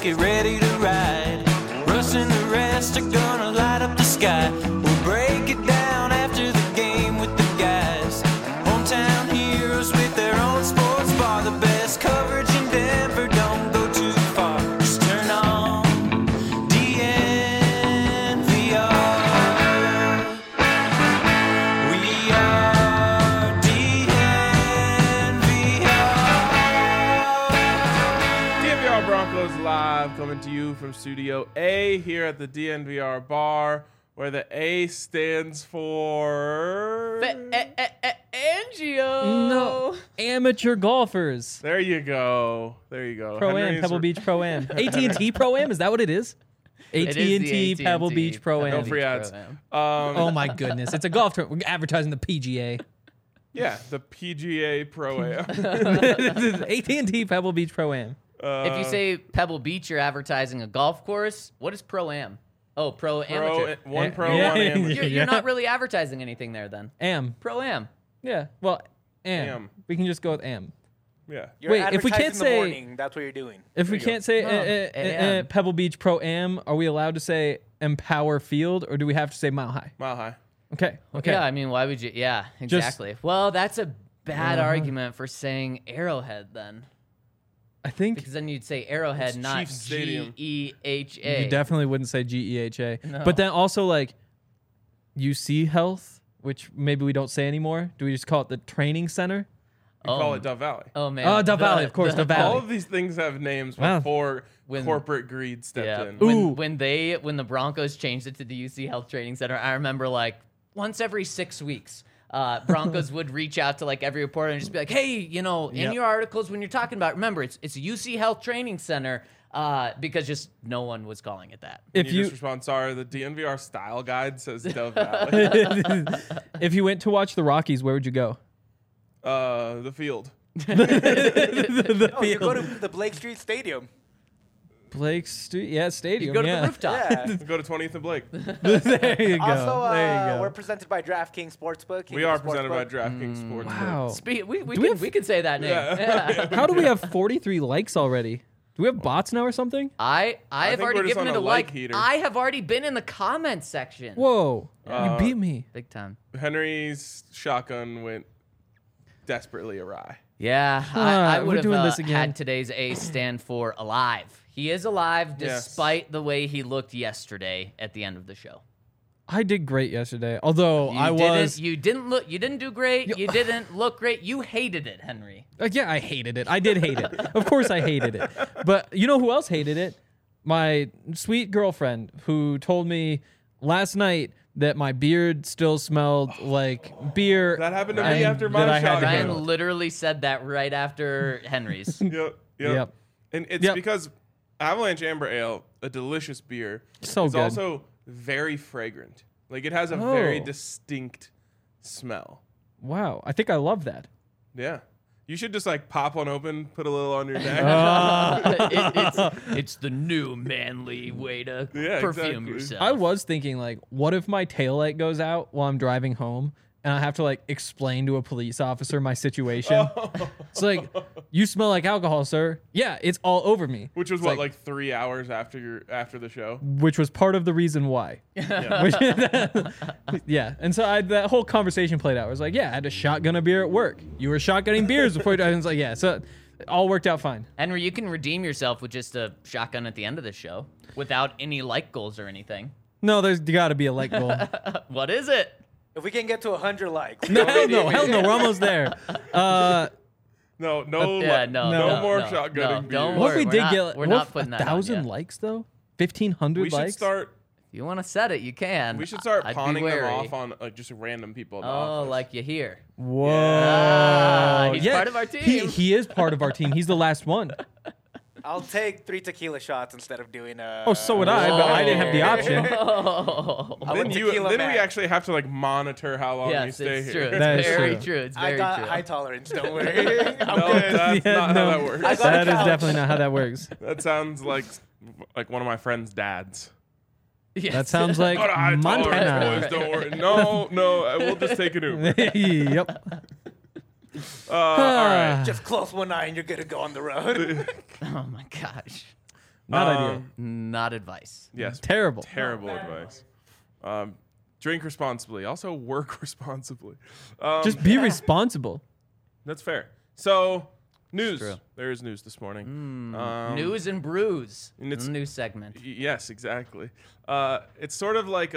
get ready to ride. Russ and the rest are gonna light up the sky. We'll break it down after the game with the guys. Hometown heroes with their own sports bar. The best coverage in Denver, don't go too far. Just turn on DNVR. We are DNVR Broncos Live, coming to you from Studio A here at the DNVR bar, where the A stands for... Angio. No, amateur golfers. There you go. Pro-Am, Henry's- Pebble Beach Pro-Am. AT&T Pro-Am, is that what it is? It is the AT&T Pebble AT&T Beach Pro-Am. No free ads. Pro-Am. Oh my goodness, it's a golf tournament. We're advertising the PGA. Yeah, the PGA Pro-Am. AT&T Pebble Beach Pro-Am. If you say Pebble Beach, you're advertising a golf course. What is Pro-Am? Oh, Pro-Amateur. One pro, Yeah. one amateur. You're Yeah. not really advertising anything there then. Am. Pro-Am. Yeah, well, Am. Am. We can just go with Am. Yeah. You're Wait, if we can't advertising the say- morning, that's what you're doing. If we you go. can't say AM. Pebble Beach Pro-Am, are we allowed to say Empower Field, or do we have to say Mile High? Mile High. Okay. Yeah, I mean, why would you? Yeah, exactly. Well, that's a bad argument for saying Arrowhead then. I think Because then you'd say Arrowhead, It's not Chiefs Stadium. GEHA. you definitely wouldn't say GEHA. No. But then also like UC Health, which maybe we don't say anymore. Do we just call it the training center? We call it Dove Valley. Oh man. Oh, Dove Valley, of course, Dove Valley. All of these things have names Wow. before When- corporate greed stepped Yeah. in. Ooh. When the Broncos changed it to the UC Health Training Center, I remember like once every 6 weeks, Broncos would reach out to like every reporter and just be like, "Hey, you know, in Yep. your articles when you're talking about, remember it's a UC Health Training Center." Because just no one was calling it that. If you you just respond, sorry, the DNVR style guide says Dove Valley. if you went to watch the Rockies, where would you go? The field. Oh, you go to the Blake Street Stadium. Blake Street, yeah, stadium. You go to yeah. the rooftop. Yeah. Go to 20th and Blake. There you go. Also, there you we're go. presented by DraftKings Sportsbook. We are presented by DraftKings Sportsbook. Wow. We can say that name. Yeah. How do we have 43 likes already? Do we have bots now or something? I have think already we're just given on it a a like like. heater. I have already been in the comments section. Whoa, you beat me. Big time. Henry's shotgun went desperately awry. Yeah, I we're would have doing this again. had today's A stand for alive. He is alive Yes. despite the way he looked yesterday at the end of the show. I did great yesterday, although You didn't do great. You didn't look great. You hated it, Henry. Yeah, I hated it. I did hate it. Of course I hated it. But you know who else hated it? My sweet girlfriend, who told me last night that my beard still smelled like beer. That happened to and me after my that I had to shotgun. Ryan handle. literally said that right after Henry's. Yep. And it's Yep. because Avalanche Amber Ale, a delicious beer, So is good. also very fragrant. Like it has a very Oh. distinct smell. Wow, I think I love that. Yeah. You should just like pop one open, put a little on your neck. It's the new manly way to Yeah, perfume exactly. yourself. I was thinking, like, what if my taillight goes out while I'm driving home and I have to, like, explain to a police officer my situation? It's like, you smell like alcohol, sir. Yeah, it's all over me. Which was It's what, like 3 hours after the show? Which was part of the reason why. Yeah. And so that whole conversation played out. I was like, yeah, I had a shotgun a beer at work. You were shotgunning beers before you. I was like, yeah. So it all worked out fine. Henry, you can redeem yourself with just a shotgun at the end of the show without any like goals or anything. No, there's got to be a like goal. What is it? If we can get to 100 likes. No, hell no. We're almost there. No No, more shotgunning no, beer. don't What if worry. we did we're get not, we're not putting that 1,000 on yet. likes, though? 1,500 We likes? should start. If you want to set it, you can. We should start I'd be pawning them wary. off on like just random people. In the Oh, office. like you hear. Whoa. He's part of our team. He is part of our team. He's the last one. I'll take 3 tequila shots instead of doing a. Oh, so would I, but I didn't have the option. Oh. I'm a Then tequila we man. actually have to like monitor how long you Yes, stay it's here. true. It's That is very true. true. It's I very got true. high tolerance. Don't worry. I'm No, good. that's Yeah, not no. how that works. I got a That is couch. definitely not how that works. That sounds like one of my friend's dads. Yes. That sounds like Got a high tolerance, Montana. boys. Don't worry. No, we'll just take an Uber. Yep. All right. Just close one eye and you're good to go on the road. Oh my gosh. Not ideal. Not advice. Yes. Terrible. Terrible advice. Drink responsibly. Also work responsibly. Just be responsible. That's fair. So, news. true. There is news this morning. News and brews. and it's- New segment. Yes, exactly. It's sort of like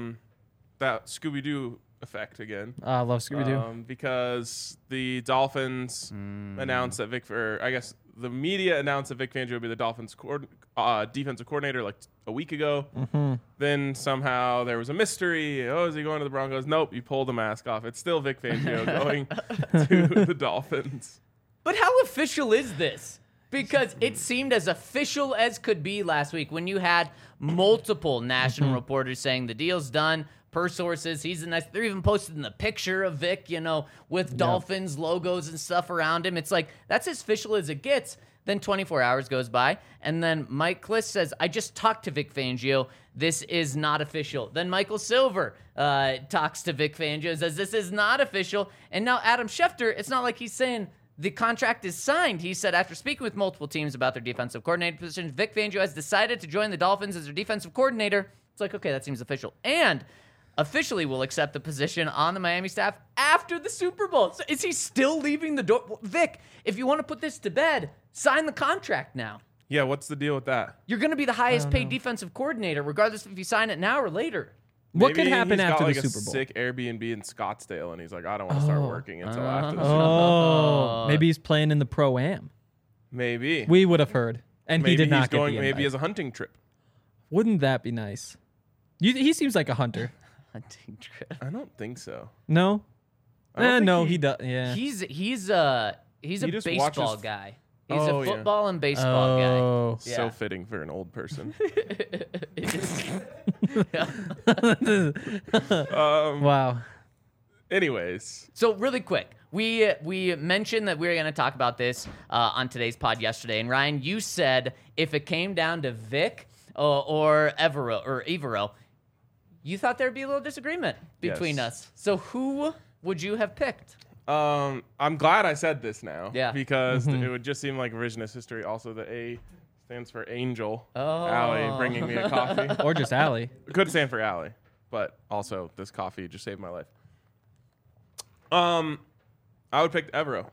that Scooby-Doo effect again. I love Scooby-Doo. Because the Dolphins announced that I guess the media announced that Vic Fangio would be the Dolphins defensive coordinator like a week ago. Then somehow there was a mystery. Oh, is he going to the Broncos? Nope, you pulled the mask off. It's still Vic Fangio going to the Dolphins. But how official is this? Because it seemed as official as could be last week when you had multiple national reporters saying the deal's done. Per sources, he's a nice. They're even posting the picture of Vic, with Dolphins logos and stuff around him. It's like that's as official as it gets. Then 24 hours goes by, and then Mike Kliss says, "I just talked to Vic Fangio. This is not official." Then Michael Silver talks to Vic Fangio, says, "This is not official." And now Adam Schefter, it's not like he's saying the contract is signed. He said, after speaking with multiple teams about their defensive coordinator positions, Vic Fangio has decided to join the Dolphins as their defensive coordinator. It's like, okay, that seems official. And officially will accept the position on the Miami staff after the Super Bowl. So is he still leaving the door? Vic, if you want to put this to bed, sign the contract now. Yeah, what's the deal with that? You're going to be the highest paid defensive coordinator, regardless if you sign it now or later. What Maybe could happen he's after got, the like, Super Bowl? a sick Airbnb in Scottsdale, and he's like, I don't want to start working until after the Super Bowl. Oh, maybe he's playing in the Pro-Am. Maybe. We would have heard, and Maybe he did not he's get going the maybe invite. as a hunting trip. Wouldn't that be nice? He seems like a hunter. Hunting trip. I don't think so. No? I don't think No, he- he does. Yeah. He's a He just baseball watches- guy. He's Oh, a yeah. football and baseball guy. Oh. Yeah. So fitting for an old person. Wow. Anyways, So really quick, we mentioned that we were going to talk about this on today's pod yesterday, and Ryan, you said if it came down to Vic or Evero, you thought there'd be a little disagreement between Yes. us. So who would you have picked? I'm glad I said this now. Yeah. Because it would just seem like revisionist history. Also, the A stands for Angel. Oh. Allie bringing me a coffee. Or just Allie. Could stand for Allie, but also this coffee just saved my life. I would pick Evero.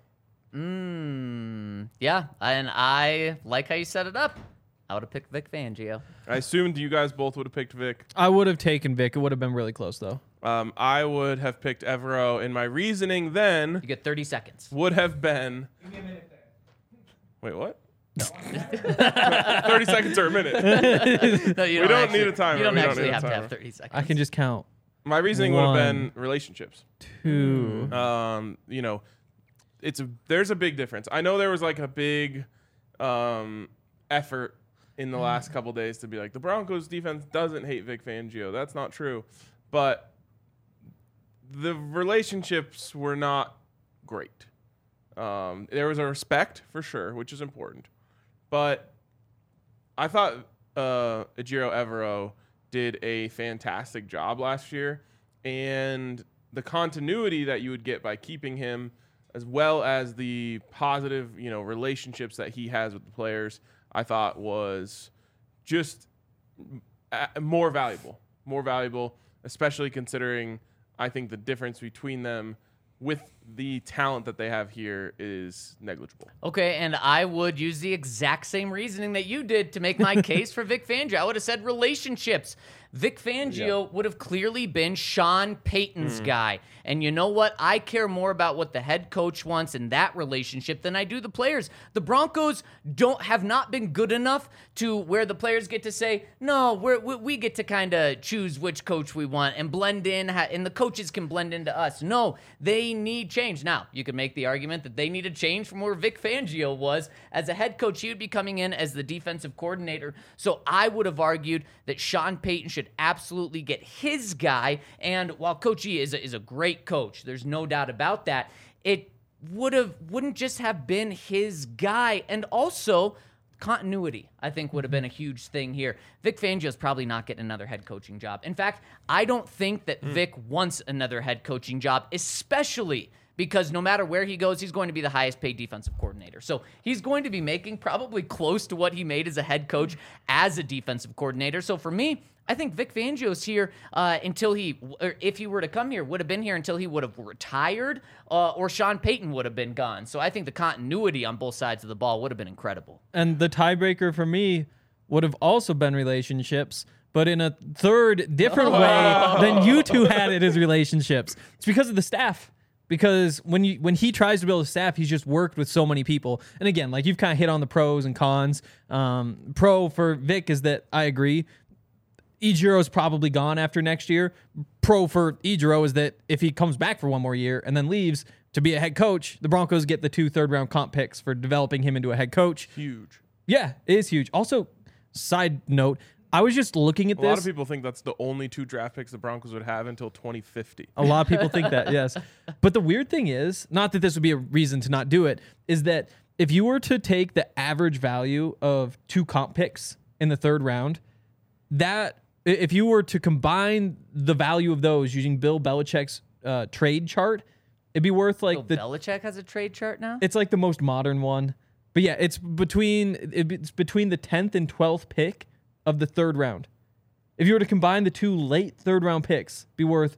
Yeah, and I like how you set it up. I would have picked Vic Fangio. I assumed you guys both would have picked Vic. I would have taken Vic. It would have been really close, though. I would have picked Evero, and my reasoning then You get 30 seconds. would have been. Wait, what? 30 seconds or a minute. No, you We don't need a timer. You don't We don't actually need a have to timer. have 30 seconds. I can just count. My reasoning would have been 1, relationships. 2. There's a big difference. I know there was like a big effort in the last couple days to be like the Broncos defense doesn't hate Vic Fangio. That's not true. But the relationships were not great. There was a respect for sure, which is important. But I thought Ejiro Evero did a fantastic job last year, and the continuity that you would get by keeping him, as well as the positive, relationships that he has with the players, I thought was just more valuable, especially considering I think the difference between them with the talent that they have here is negligible. Okay, and I would use the exact same reasoning that you did to make my case for Vic Fangio. I would have said relationships. Vic Fangio would have clearly been Sean Payton's guy. And you know what? I care more about what the head coach wants in that relationship than I do the players. The Broncos have not been good enough to where the players get to say, no, we get to kind of choose which coach we want and blend in, and the coaches can blend into us. No, they need change. Now, you could make the argument that they need a change from where Vic Fangio was. As a head coach, he would be coming in as the defensive coordinator. So I would have argued that Sean Payton should absolutely get his guy. And while Coach E is a great coach, there's no doubt about that, it wouldn't just have been his guy. And also, continuity, I think, would have been a huge thing here. Vic Fangio's probably not getting another head coaching job. In fact, I don't think that Vic wants another head coaching job, especially because no matter where he goes, he's going to be the highest paid defensive coordinator. So he's going to be making probably close to what he made as a head coach as a defensive coordinator. So for me, I think Vic Fangio's here until or if he were to come here, would have been here until he would have retired, or Sean Payton would have been gone. So I think the continuity on both sides of the ball would have been incredible. And the tiebreaker for me would have also been relationships, but in a third different way than you two had it as relationships. It's because of the staff. Because when he tries to build a staff, he's just worked with so many people. And again, like you've kind of hit on the pros and cons. Pro for Vic is that I agree. Ijiro's probably gone after next year. Pro for Ijiro is that if he comes back for one more year and then leaves to be a head coach, the Broncos get the 2 third-round comp picks for developing him into a head coach. Huge. Yeah, it is huge. Also, side note, I was just looking at this. A lot of people think that's the only 2 draft picks the Broncos would have until 2050. A lot of people think that, yes. But the weird thing is, not that this would be a reason to not do it, is that if you were to take the average value of 2 comp picks in the 3rd round, that if you were to combine the value of those using Bill Belichick's trade chart, it'd be worth like Bill Belichick has a trade chart now? It's like the most modern one. But yeah, it's between the 10th and 12th pick of the 3rd round. If you were to combine the 2 late 3rd round picks, be worth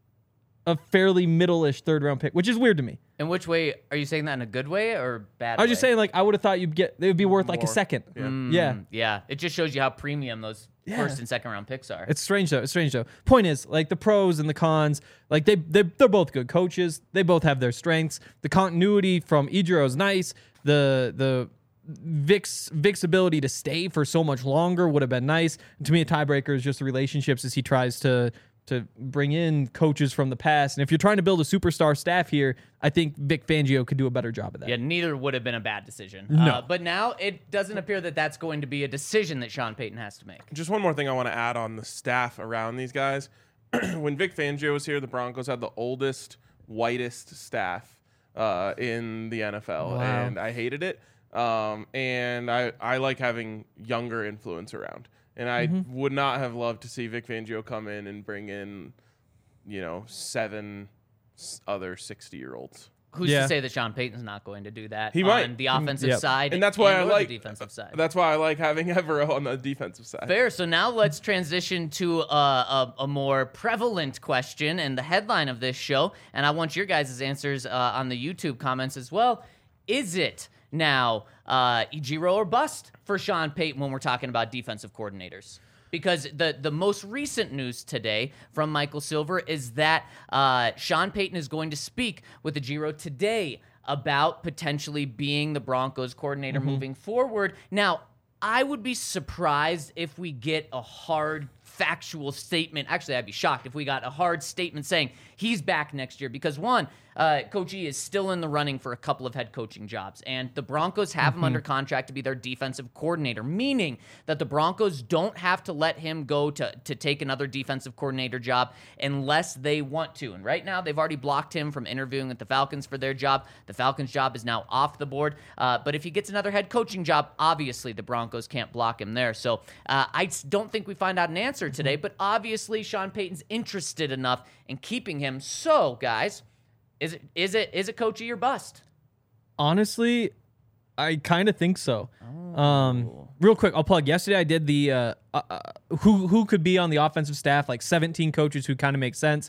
a fairly middle-ish 3rd round pick, which is weird to me. In which way? Are you saying that in a good way or bad I was just saying, like, I would have thought it would be worth like a More. second. Yeah. Yeah. It just shows you how premium those Yeah. 1st and 2nd round picks are. It's strange though. Point is, like the pros and the cons, like they're both good coaches. They both have their strengths. The continuity from Ijiro is nice. The Vic's ability to stay for so much longer would have been nice. And to me, a tiebreaker is just the relationships as he tries to bring in coaches from the past. And if you're trying to build a superstar staff here, I think Vic Fangio could do a better job of that. Yeah, neither would have been a bad decision. No. But now it doesn't appear that that's going to be a decision that Sean Payton has to make. Just one more thing I want to add on the staff around these guys. When Vic Fangio was here, the Broncos had the oldest, whitest staff in the NFL, Wow. and I hated it. And I like having younger influence around. And I would not have loved to see Vic Fangio come in and bring in, 7 other 60-year-olds. Who's Yeah. to say that Sean Payton's not going to do that He on might. the offensive Yep. side And that's why I or like the defensive side? That's why I like having Evero on the defensive side. Fair. So now let's transition to a more prevalent question and the headline of this show. And I want your guys' answers on the YouTube comments as well. Is it now Ijiro or bust for Sean Payton when we're talking about defensive coordinators? Because the most recent news today from Michael Silver is that Sean Payton is going to speak with Ijiro today about potentially being the Broncos coordinator moving forward. Now, I would be surprised if we get a hard factual statement. Actually, I'd be shocked if we got a hard statement saying he's back next year because, one, Coach E is still in the running for a couple of head coaching jobs, and the Broncos have him under contract to be their defensive coordinator, meaning that the Broncos don't have to let him go to take another defensive coordinator job unless they want to. And right now, they've already blocked him from interviewing with the Falcons for their job. The Falcons' job is now off the board. But if he gets another head coaching job, obviously the Broncos can't block him there. So I don't think we find out an answer today, but obviously Sean Payton's interested enough in keeping him. So, guys, is it Coach E or bust? Honestly, I kind of think so. Real quick, I'll plug. Yesterday I did the who could be on the offensive staff, like 17 coaches who kind of make sense.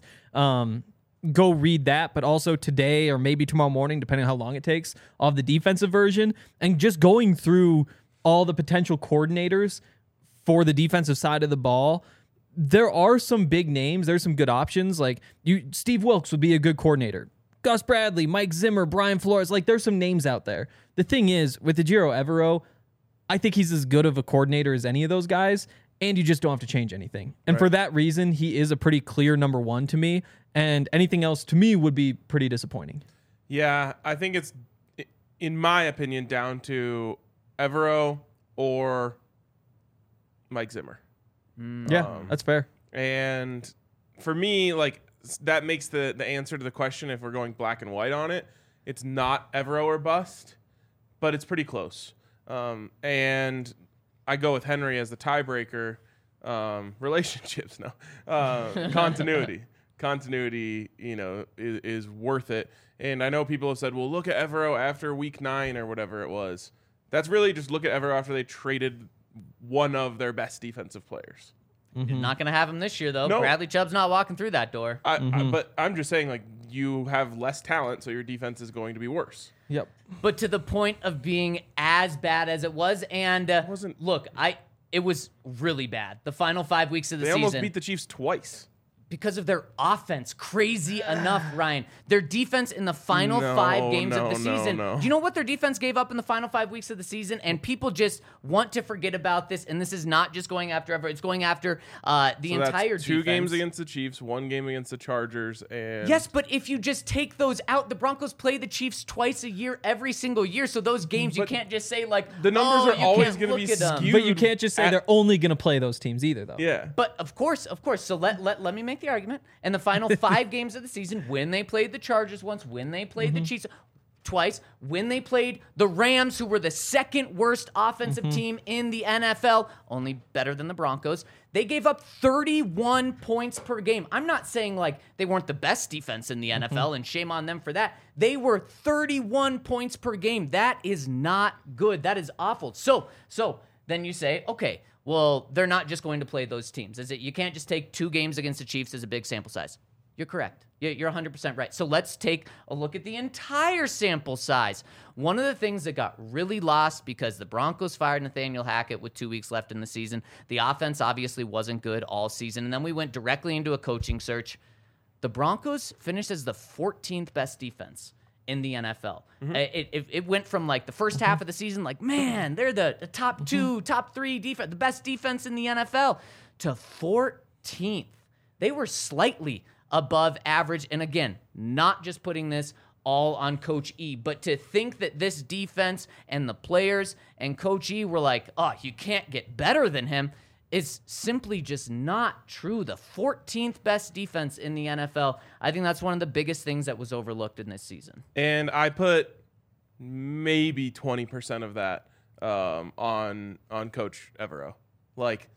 Go read that, but also today or maybe tomorrow morning, depending on how long it takes, of the defensive version, and just going through all the potential coordinators for the defensive side of the ball. There are some big names. There's some good options. Like Steve Wilkes would be a good coordinator. Gus Bradley, Mike Zimmer, Brian Flores. Like there's some names out there. The thing is, with Ejiro Evero, I think he's as good of a coordinator as any of those guys, and you just don't have to change anything. And for that reason, he is a pretty clear number one to me, and anything else to me would be pretty disappointing. Yeah, I think it's, in my opinion, down to Evero or Mike Zimmer. Yeah, that's fair. And for me, like, that makes the answer to the question, if we're going black and white on it, it's not Evero or bust, but it's pretty close. And I go with Henry as the tiebreaker. Relationships, no. Continuity. continuity, is worth it. And I know people have said, well, look at Evero after week 9 or whatever it was. That's really just look at Evero after they traded one of their best defensive players. You're not going to have him this year, though. No. Bradley Chubb's not walking through that door. But I'm just saying, like, you have less talent, so your defense is going to be worse. Yep. But to the point of being as bad as it was, and wasn't. look, it was really bad. The final 5 weeks of the They season. almost beat the Chiefs twice. Because of their offense. Crazy enough, Ryan. Their defense in the final 5 games of the season. No. Do you know what their defense gave up in the final 5 weeks of the season? And people just want to forget about this. And this is not just going after Everett. It's going after the entire That's 2 defense. games against the Chiefs, 1 game against the Chargers, and Yes, but if you just take those out, the Broncos play the Chiefs twice a year, every single year. So those games, you But can't just say like, the numbers are you always can't gonna look be at 'em. skewed. But you can't just say at- they're only going to play those teams either, though. Yeah. But of course. So let me make the argument. And the final 5 games of the season, when they played the Chargers once, when they played the Chiefs twice, when they played the Rams, who were the second worst offensive team in the NFL, only better than the Broncos, they gave up 31 points per game. I'm not saying like they weren't the best defense in the NFL, and shame on them for that. They were 31 points per game. That is not good. That is awful. So then you say, okay, well, they're not just going to play those teams. Is it? You can't just take 2 games against the Chiefs as a big sample size. You're correct. You're 100% right. So let's take a look at the entire sample size. One of the things that got really lost because the Broncos fired Nathaniel Hackett with 2 weeks left in the season, the offense obviously wasn't good all season, and then we went directly into a coaching search. The Broncos finished as the 14th best defense in the NFL. It went from like the first half of the season, like, man, they're the top 2, top 3 defense, the best defense in the NFL, to 14th. They were slightly above average. And again, not just putting this all on Coach E, but to think that this defense and the players and Coach E were like, oh, you can't get better than him, is simply just not true. The 14th best defense in the NFL. I think that's one of the biggest things that was overlooked in this season. And I put maybe 20% of that on Coach Evero. Like,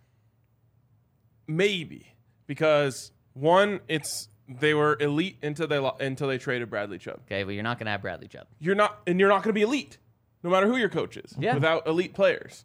maybe. Because, one, they were elite until they traded Bradley Chubb. Okay, well, you're not going to have Bradley Chubb. You're not going to be elite, no matter who your coach is, Yeah. without elite players.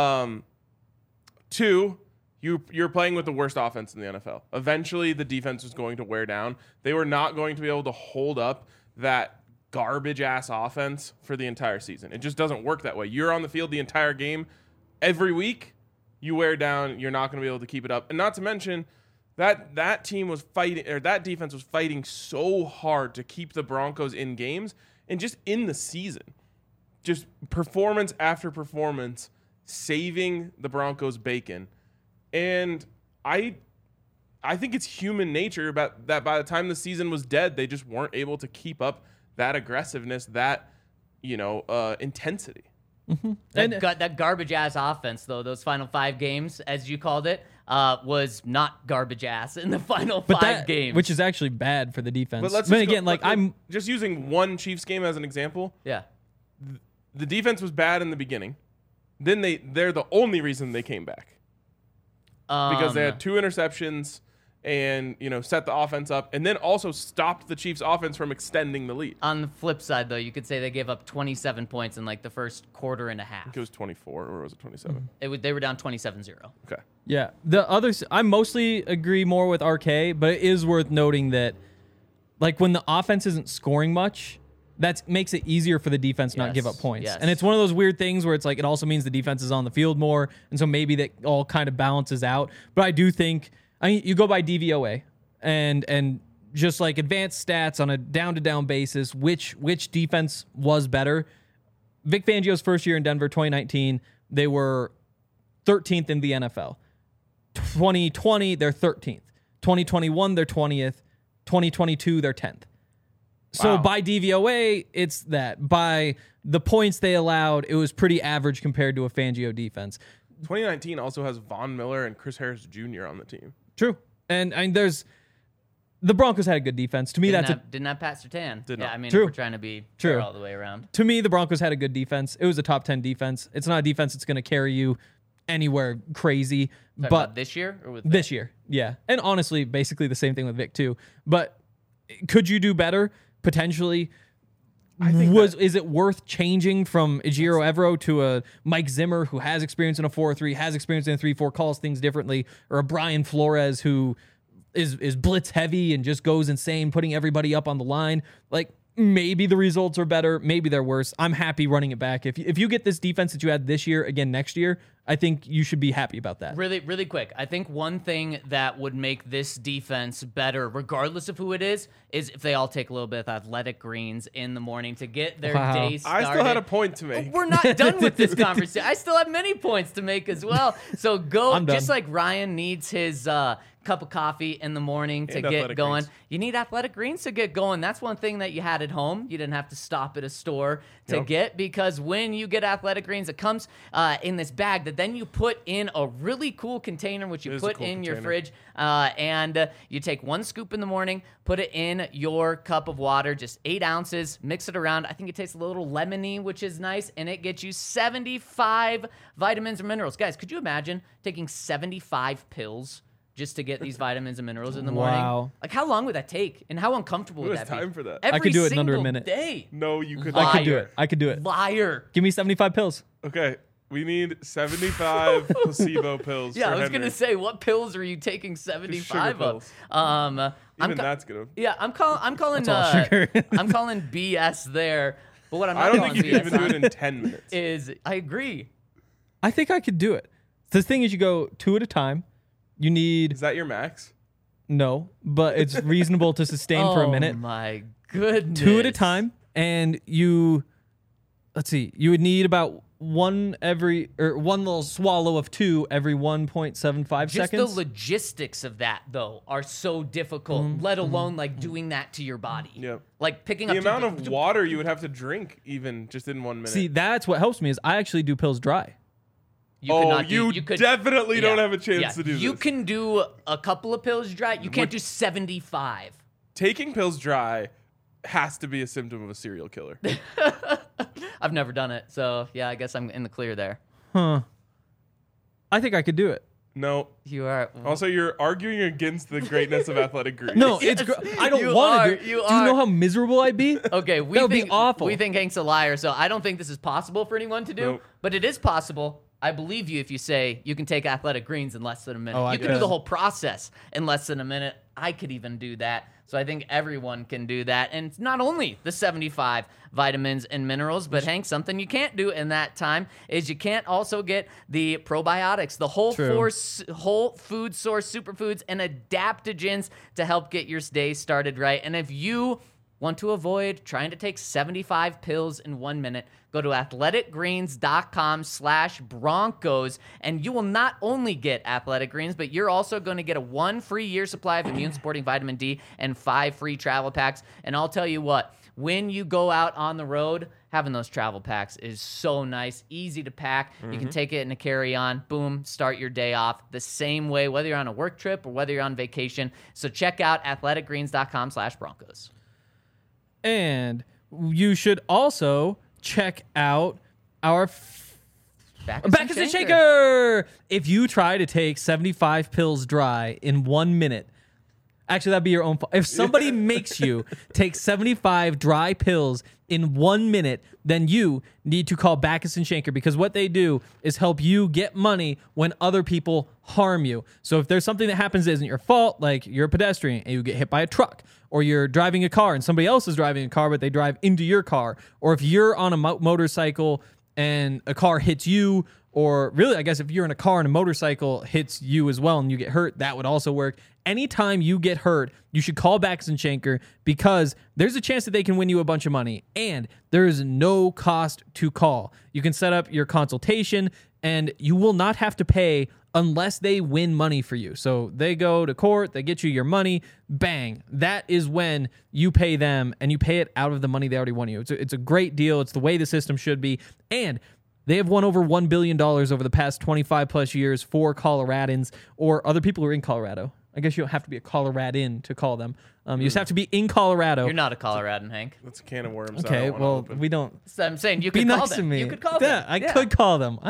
2, you're playing with the worst offense in the NFL. Eventually, the defense was going to wear down. They were not going to be able to hold up that garbage-ass offense for the entire season. It just doesn't work that way. You're on the field the entire game. Every week, you wear down. You're not going to be able to keep it up. And not to mention, that team was fighting, or that defense was fighting so hard to keep the Broncos in games and just in the season. Just performance after performance, saving the Broncos bacon. And I think it's human nature about that by the time the season was dead, they just weren't able to keep up that aggressiveness, that intensity. That garbage ass offense, though, those final 5 games, as you called it, was not garbage ass in the final 5 games. Which is actually bad for the defense. But let's but just again, go, like let- I'm just using one Chiefs game as an example. Yeah. The defense was bad in the beginning. Then they're the only reason they came back. Because they had 2 interceptions and, set the offense up, and then also stopped the Chiefs' offense from extending the lead. On the flip side, though, you could say they gave up 27 points in like the first quarter and a I half. think it was 24, or was it 27? They were down 27-0. Okay. Yeah, the others I mostly agree more with RK, but it is worth noting that like when the offense isn't scoring much, that makes it easier for the defense to not give up Yes, points. yes. And it's one of those weird things where it's like it also means the defense is on the field more, and so maybe that all kind of balances out. But I do think you go by DVOA and just like advanced stats on a down-to-down basis, which defense was better. Vic Fangio's first year in Denver, 2019, they were 13th in the NFL. 2020, they're 13th. 2021, they're 20th. 2022, they're 10th. So Wow. by DVOA, it's that. By the points they allowed, it was pretty average compared to a Fangio defense. 2019 also has Von Miller and Chris Harris Jr. on the team. True. And there's the Broncos had a good defense. To me, Didn't have Pat Surtain. Did Yeah, not. I mean, True. if we're trying to be True. fair all the way around. to me, the Broncos had a good defense. It was a top 10 defense. It's not a defense that's going to carry you anywhere crazy. Talking But about this year or with this year, yeah. And honestly, basically the same thing with Vic too. But could you do better? Potentially. Is it worth changing from Ejiro Evero to a Mike Zimmer who has experience in a 4-3, has experience in a 3-4, calls things differently, or a Brian Flores who is blitz heavy and just goes insane, putting everybody up on the line? Like, maybe the results are better, maybe they're worse. I'm happy running it back. If you get this defense that you had this year again next year, I think you should be happy about that. Really, really quick. I think one thing that would make this defense better, regardless of who it is if they all take a little bit of athletic greens in the morning to get their day started. I still had a point to make. We're not done with this conversation. I still have many points to make as well. So go, I'm done. just like Ryan needs his cup of coffee in the morning to And get athletic going. greens. You need athletic greens to get going. That's one thing that you had at home. You didn't have to stop at a store to get, because when you get athletic greens, it comes in this bag that then you put in a really cool container, which you is a put cool in your container. fridge, and you take 1 scoop in the morning, put it in your cup of water, just 8 ounces, mix it around. I think it tastes a little lemony, which is nice, and it gets you 75 vitamins and minerals. Guys, could you imagine taking 75 pills just to get these vitamins and minerals in the morning? Wow. Like, how long would that take, and how uncomfortable Who would has that be? time for that? Every could do it in under a single minute. Day. No, you could Liar. not. I could do it. Liar. Give me 75 pills. Okay, we need 75 placebo pills. Yeah, for I was Henry. gonna say, what pills are you taking 75 of? pills. I'm Even ca- that's gonna. Yeah, I'm calling That's all sugar. I'm calling BS there. But what I'm not I don't calling think you can BS even do on it in 10 minutes. is I agree. I think I could do it. The thing is, you go 2 at a time. You need Is that your max? no, but it's reasonable to sustain for a minute. Oh my goodness. 2 at a time, and you would need about one little swallow of 2 every 1.75 Just seconds. the logistics of that though are so difficult, let alone like doing that to your body. Yep. Like picking The up amount of water you would have to drink, even just in 1 minute. See, that's what helps me is I actually do pills dry. You could not do- you could- definitely don't yeah, have a chance yeah. to do You this. can do a couple of pills dry. You can't do 75. Taking pills dry has to be a symptom of a serial killer. I've never done it, so yeah, I guess I'm in the clear there. I think I could do it. No. You are. Also, you're arguing against the greatness of athletic greens. No, Yes, I don't you want are, to do it. you Do you are. know how miserable I'd be? Okay, we That would be think awful. We think Hank's a liar, so I don't think this is possible for anyone to do. Nope. But it is possible. I believe you if you say you can take athletic greens in less than a minute. Oh, I you can do could. the whole process in less than a minute. I could even do that. So I think everyone can do that. And it's not only the 75 vitamins and minerals, but Hank, something you can't do in that time is you can't also get the probiotics, the whole food source superfoods and adaptogens to help get your day started right. And if you want to avoid trying to take 75 pills in 1 minute, go to athleticgreens.com/Broncos, and you will not only get Athletic Greens, but you're also going to get a 1 free year supply of immune-supporting vitamin D and 5 free travel packs. And I'll tell you what, when you go out on the road, having those travel packs is so nice, easy to pack. You can take it in a carry-on, boom, start your day off the same way, whether you're on a work trip or whether you're on vacation. So check out athleticgreens.com/Broncos. And you should also check out our Back is the Shaker. If you try to take 75 pills dry in 1 minute, actually, that'd be your own fault. If somebody makes you take 75 dry pills in 1 minute, then you need to call Backus and Shanker, because what they do is help you get money when other people harm you. So if there's something that happens that isn't your fault, like you're a pedestrian and you get hit by a truck, or you're driving a car and somebody else is driving a car but they drive into your car, or if you're on a motorcycle and a car hits you, or really, I guess if you're in a car and a motorcycle hits you as well and you get hurt, that would also work. Anytime you get hurt, you should call Backus and Shanker, because there's a chance that they can win you a bunch of money, and there is no cost to call. You can set up your consultation, and you will not have to pay unless they win money for you. So they go to court, they get you your money, bang. That is when you pay them, and you pay it out of the money they already won you. It's a great deal. It's the way the system should be. And they have won over $1 billion over the past 25 plus years for Coloradans or other people who are in Colorado. I guess you don't have to be a Coloradan to call them. You just have to be in Colorado. You're not a Coloradan, Hank. That's a can of worms. Okay, I don't well, wanna open. we don't. So I'm saying you Be could call nice them. to me. You could call Yeah, them. I could call them.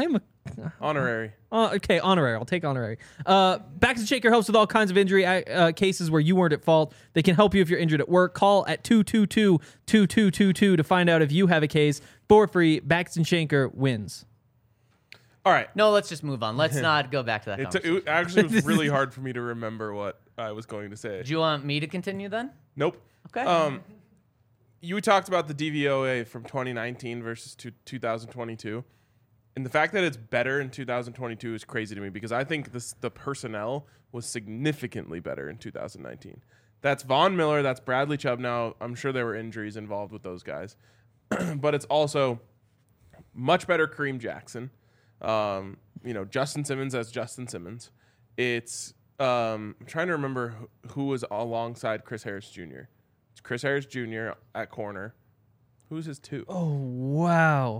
Honorary. Okay, honorary. I'll take honorary. Baxton Shaker helps with all kinds of injury cases where you weren't at fault. They can help you if you're injured at work. Call at 222-2222 to find out if you have a case for free. Baxton Shaker wins. All right. No, let's just move on. Let's not go back to that conversation. It actually was really hard for me to remember what I was going to say. Do you want me to continue then? Nope. Okay. You talked about the DVOA from 2019 versus 2022. And the fact that it's better in 2022 is crazy to me because I think the personnel was significantly better in 2019. That's Von Miller. That's Bradley Chubb. Now, I'm sure there were injuries involved with those guys. But it's also much better Kareem Jackson. Justin Simmons as Justin Simmons. It's I'm trying to remember who was alongside Chris Harris Jr. It's Chris Harris Jr. at corner. Who's his two? Oh, wow.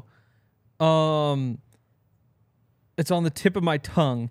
It's on the tip of my tongue.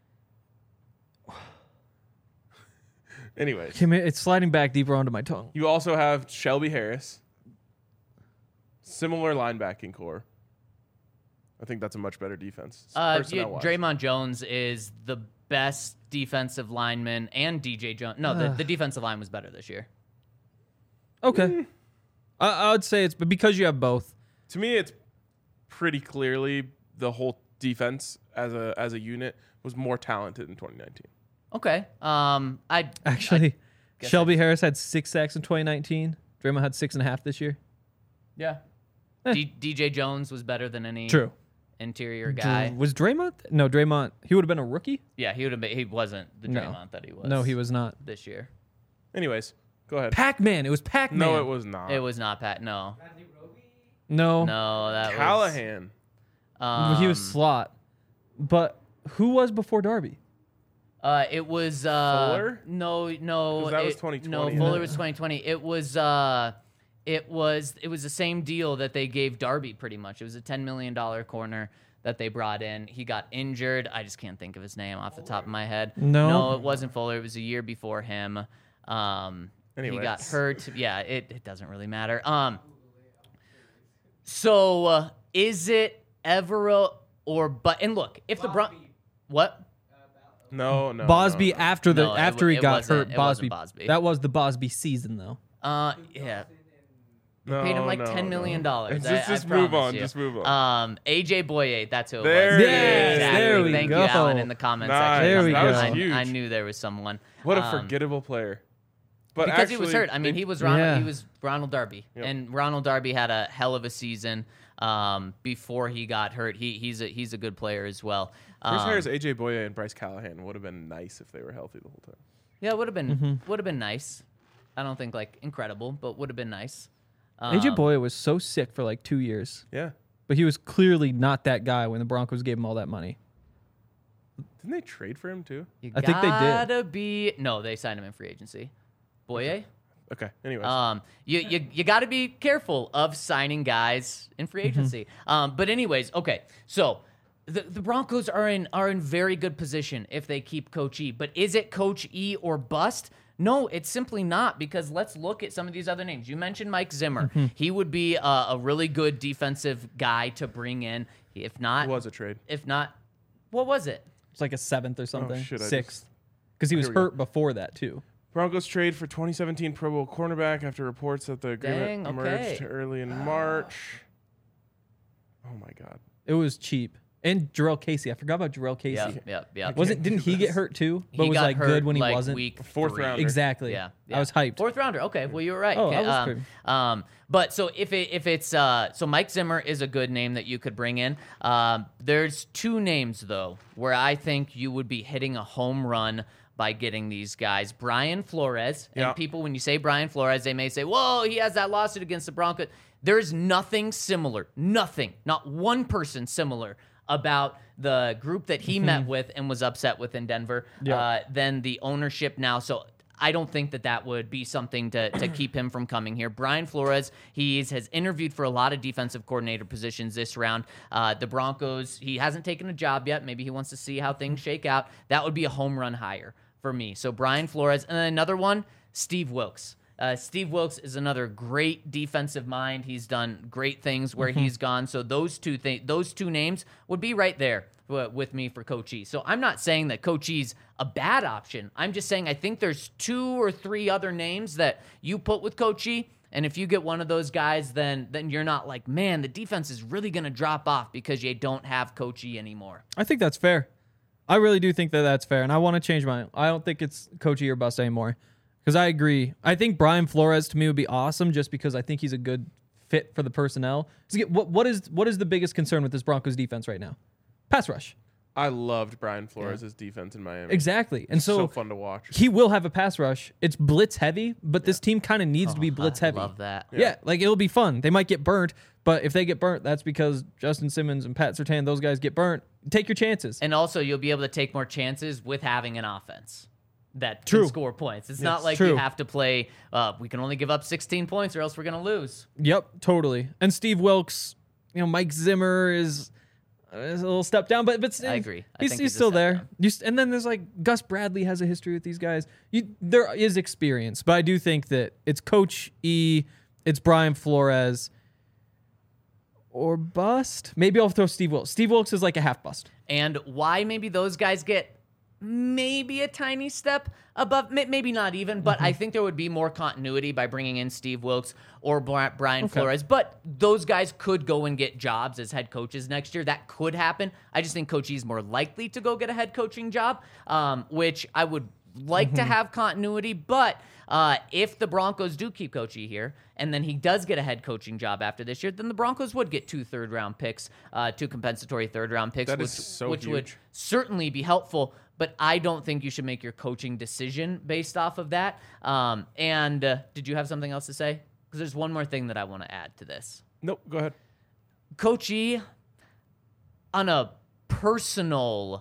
Anyways, It's sliding back deeper onto my tongue. you also have Shelby Harris. Similar linebacking core. I think that's a much better defense. personnel-wise. Draymond Jones is the best defensive lineman, and DJ Jones. No, the defensive line was better this year. Okay. I would say it's because you have both. To me, it's pretty clearly the whole defense as a unit was more talented in 2019. Okay. Actually, guess Shelby Harris had 6 sacks in 2019. Draymond had 6.5 this year. Yeah. DJ Jones was better than any True. interior guy. Was Draymond? No, Draymond. He would have been a rookie? Yeah, he would have been. He wasn't the No. Draymond that he was. No, he was not. this year. Anyways, go ahead. Pac-Man. It was Pac-Man. No, it was not. It was not Pat. No, No. no, that Callahan. was. He was slot. But who was before Darby? It was Fuller? No. 'Cause that was 2020, No, isn't Fuller it? was 2020. It was the same deal that they gave Darby pretty much. It was a $10 million corner that they brought in. He got injured. I just can't think of his name off the top of my head. No. it wasn't Fuller. It was a year before him. He got Anyways. hurt. Yeah, it doesn't really matter. So is it Evero or but? And look, if the what? No. Bosby no. after No, he it got wasn't- hurt. it wasn't Bosby. That was the Bosby season, though. Yeah. No, Paid him like no, $10 million. no. I Just move promise on. you. Just move on. AJ Boye, that's who it There was. it is. Exactly. There we Thank go. you, Alan, in the comments Nice. section. There we That go. was I, huge. I knew there was someone. What a forgettable player. But Because he was actually, hurt. I mean, they- he was Ronald Darby, Yep. and Ronald Darby had a hell of a season before he got hurt. He's a good player as well. Chris Harris, AJ Boye, and Bryce Callahan would have been nice if they were healthy the whole time. Yeah, it would have Mm-hmm. been nice. I don't think like incredible, but would have been nice. AJ Boye was so sick for like 2 years, Yeah. but he was clearly not that guy when the Broncos gave him all that money. Didn't they trade for him too? You I think they did. gotta be. No, they signed him in free agency. Boye. Okay. Anyways. You got to be careful of signing guys in free Mm-hmm. agency. But anyways, okay. So the Broncos are in very good position if they keep Coach E. But is it Coach E or bust? No, it's simply not, because let's look at some of these other names. You mentioned Mike Zimmer. Mm-hmm. He would be a really good defensive guy to bring in. If not, it was a trade. if not, what was it? It's like a 7th or something. shit, I 6th. Because he was Here we go. hurt before that, too. Broncos trade for 2017 Pro Bowl cornerback after reports that the agreement Dang, emerged okay. early in March. Oh my God. It was cheap. And Jarrell Casey. I forgot about Jarrell Casey. Yep. Didn't he get hurt too? But He was got like hurt, good when he like, wasn't. Week Fourth 3. rounder. Exactly. Yeah, I was hyped. Fourth rounder. Okay, well you were right. Oh, Okay, I was good. but so if it's so Mike Zimmer is a good name that you could bring in. There's two names though where I think you would be hitting a home run by getting these guys. Brian Flores. Yeah. And people, when you say Brian Flores, they may say, "Whoa, he has that lawsuit against the Broncos." There's nothing similar. Nothing. Not one person similar about the group that he met with and was upset with in Denver than the ownership now. So I don't think that would be something to keep him from coming here. Brian Flores, has interviewed for a lot of defensive coordinator positions this round. The Broncos, he hasn't taken a job yet. Maybe he wants to see how things shake out. That would be a home run hire for me. So Brian Flores. And then another one, Steve Wilkes. Steve Wilkes is another great defensive mind. He's done great things where he's gone. So those two names would be right there with me for Coach E. So I'm not saying that Coach E's a bad option. I'm just saying I think there's 2 or 3 other names that you put with Coach E. And if you get one of those guys, then you're not like, man, the defense is really going to drop off because you don't have Coach E anymore. I think that's fair. I really do think that that's fair, and I want to change mine. I don't think it's Coach E or bust anymore because I agree. I think Brian Flores to me would be awesome just because I think he's a good fit for the personnel. So what is the biggest concern with this Broncos defense right now? Pass rush. I loved Brian Flores' defense in Miami. Exactly. And So fun to watch. He will have a pass rush. It's blitz heavy, but this team kind of needs to be blitz heavy. I love that. Yeah, like it'll be fun. They might get burnt, but if they get burnt, that's because Justin Simmons and Pat Surtain, those guys get burnt. Take your chances. And also, you'll be able to take more chances with having an offense that True. can score points. It's not like True. you have to play, we can only give up 16 points or else we're going to lose. Yep, totally. And Steve Wilkes, Mike Zimmer is a little step down, but I agree. I He's think he's a still step there. down. And then there's like Gus Bradley has a history with these guys. There is experience, but I do think that it's Coach E, it's Brian Flores, or bust. Maybe I'll throw Steve Wilkes. Steve Wilkes is like a half bust. And why maybe those guys get maybe a tiny step above, maybe not even, but I think there would be more continuity by bringing in Steve Wilkes or Brian Flores. But those guys could go and get jobs as head coaches next year. That could happen. I just think Coach E is more likely to go get a head coaching job, which I would like to have continuity. But if the Broncos do keep Coach E here, and then he does get a head coaching job after this year, then the Broncos would get 2 third-round picks, 2 compensatory third-round picks, That is so which would huge. certainly be helpful. But I don't think you should make your coaching decision based off of that. Did you have something else to say? Because there's one more thing that I want to add to this. Nope, go ahead. Coach E, on a personal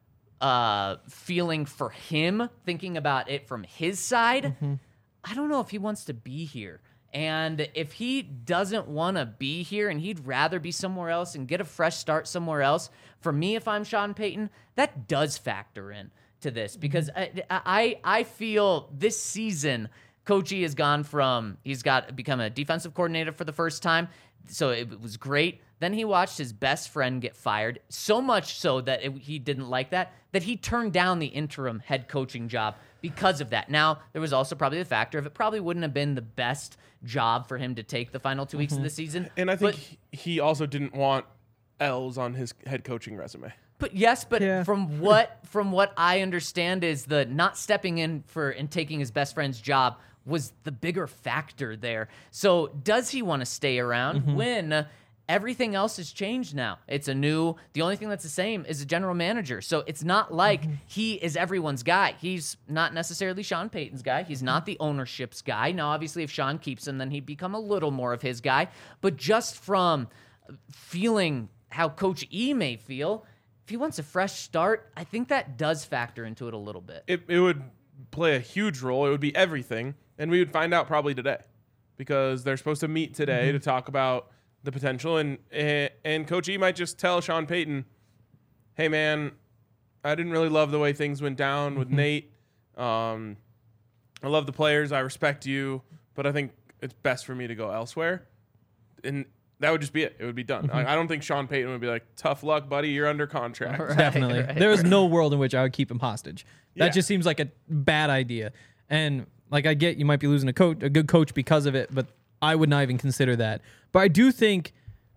feeling for him, thinking about it from his side, I don't know if he wants to be here. And if he doesn't want to be here and he'd rather be somewhere else and get a fresh start somewhere else, for me, if I'm Sean Payton, that does factor in to this because I feel this season Coach E has gone from become a defensive coordinator for the first time, so it was great. Then he watched his best friend get fired, so much so that he didn't like that he turned down the interim head coaching job because of that. Now, there was also probably the factor of it probably wouldn't have been the best job for him to take the final 2 weeks of the season. And I think he also didn't want L's on his head coaching resume. But yes, but Yeah. from what I understand is the not stepping in and taking his best friend's job was the bigger factor there. So does he want to stay around when everything else has changed now? The only thing that's the same is the general manager. So it's not like he is everyone's guy. He's not necessarily Sean Payton's guy. He's not the ownership's guy. Now, obviously, if Sean keeps him, then he'd become a little more of his guy. But just from feeling how Coach E may feel, if he wants a fresh start, I think that does factor into it a little bit. It would play a huge role. It would be everything. And we would find out probably today because they're supposed to meet today to talk about the potential. And Coach E might just tell Sean Payton, hey, man, I didn't really love the way things went down with Nate. I love the players. I respect you. But I think it's best for me to go elsewhere. And that would just be it. It would be done. I don't think Sean Payton would be like, tough luck, buddy. You're under contract. Right, Definitely. right. There is no world in which I would keep him hostage. That Yeah. just seems like a bad idea. And like I get you might be losing a good coach because of it, but I would not even consider that. But I do think,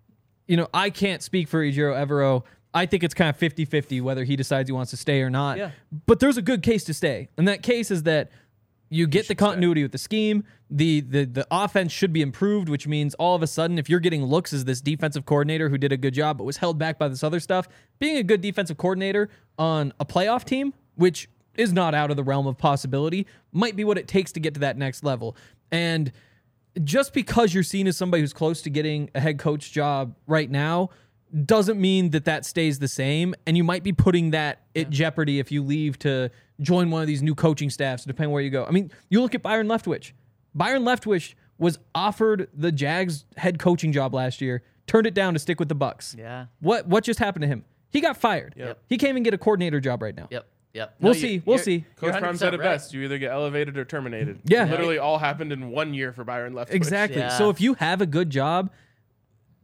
I can't speak for Ejiro Evero. I think it's kind of 50-50 whether he decides he wants to stay or not. Yeah. But there's a good case to stay. And that case is that you get the continuity with the scheme. The offense should be improved, which means all of a sudden, if you're getting looks as this defensive coordinator who did a good job but was held back by this other stuff, being a good defensive coordinator on a playoff team, which is not out of the realm of possibility, might be what it takes to get to that next level. And just because you're seen as somebody who's close to getting a head coach job right now doesn't mean that stays the same. And you might be putting that at jeopardy if you leave to join one of these new coaching staffs, depending where you go. I mean, you look at Byron Leftwich. Byron Leftwich was offered the Jags head coaching job last year, turned it down to stick with the Bucs. Yeah. What just happened to him? He got fired. Yep. He can't even get a coordinator job right now. Yep. We'll see. We'll see. Coach You're Prime said it 100% best. You either get elevated or terminated. Yeah. It literally all happened in 1 year for Byron Leftwich. Exactly. Yeah. So if you have a good job,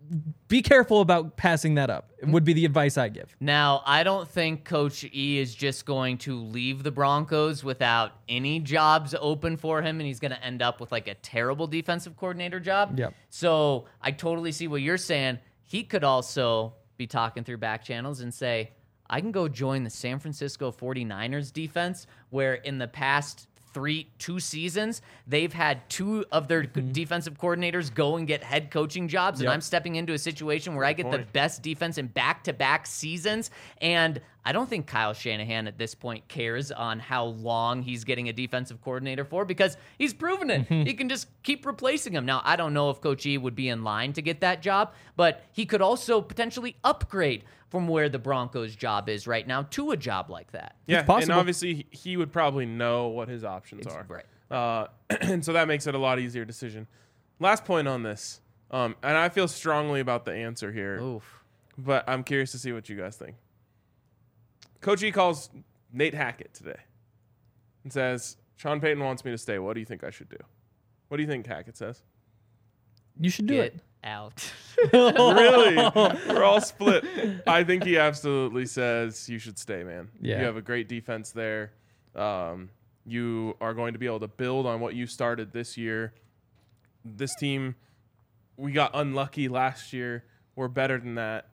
be careful about passing that up. Would be the advice I give. Now, I don't think Coach E is just going to leave the Broncos without any jobs open for him, and he's going to end up with like a terrible defensive coordinator job. Yep. So I totally see what you're saying. He could also be talking through back channels and say, I can go join the San Francisco 49ers defense, where in the past 2 seasons, they've had 2 of their defensive coordinators go and get head coaching jobs, and I'm stepping into a situation where I get the best defense in back-to-back seasons, and I don't think Kyle Shanahan at this point cares on how long he's getting a defensive coordinator for, because he's proven it. He can just keep replacing him. Now, I don't know if Coach E would be in line to get that job, but he could also potentially upgrade from where the Broncos' job is right now to a job like that. Yeah, It's possible. and obviously he would probably know what his options are. Right. And so that makes it a lot easier decision. Last point on this, and I feel strongly about the answer here, Oof. but I'm curious to see what you guys think. Coach E calls Nate Hackett today and says, Sean Payton wants me to stay. What do you think I should do? What do you think Hackett says? You should do Get it. out. Really? We're all split. I think he absolutely says you should stay, man. Yeah. You have a great defense there. You are going to be able to build on what you started this year. This team, we got unlucky last year. We're better than that.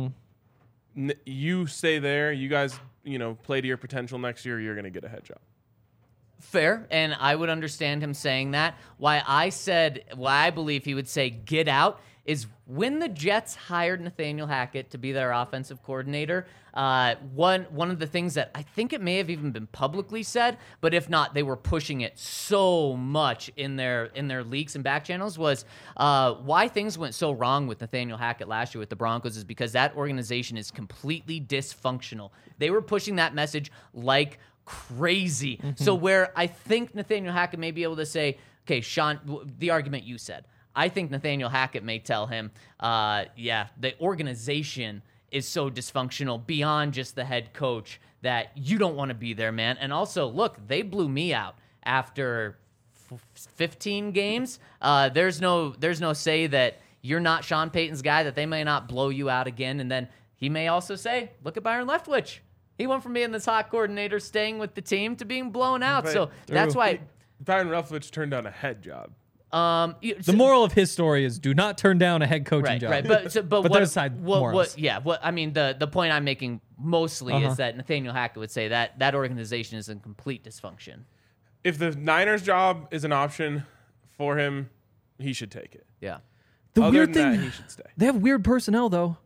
You stay there. You guys, play to your potential next year. You're going to get a head job. Fair, and I would understand him saying that. Why I believe he would say get out is when the Jets hired Nathaniel Hackett to be their offensive coordinator, one of the things that I think it may have even been publicly said, but if not, they were pushing it so much in their leaks and back channels, was why things went so wrong with Nathaniel Hackett last year with the Broncos is because that organization is completely dysfunctional. They were pushing that message like crazy. So where I think Nathaniel Hackett may be able to say, okay, Sean, the argument you said, I think Nathaniel Hackett may tell him, the organization is so dysfunctional beyond just the head coach that you don't want to be there, man. And also, look, they blew me out after 15 games. There's no say that you're not Sean Payton's guy, that they may not blow you out again. And then he may also say, look at Byron Leftwich. He went from being this hot coordinator, staying with the team, to being blown out. But so that's why. Byron Leftwich turned down a head job. The moral of his story is do not turn down a head coaching job. Right, but But what, there's side morals. I mean, the point I'm making mostly is that Nathaniel Hackett would say that organization is in complete dysfunction. If the Niners job is an option for him, he should take it. Yeah. The Other weird than thing, that, he should stay. they have weird personnel though.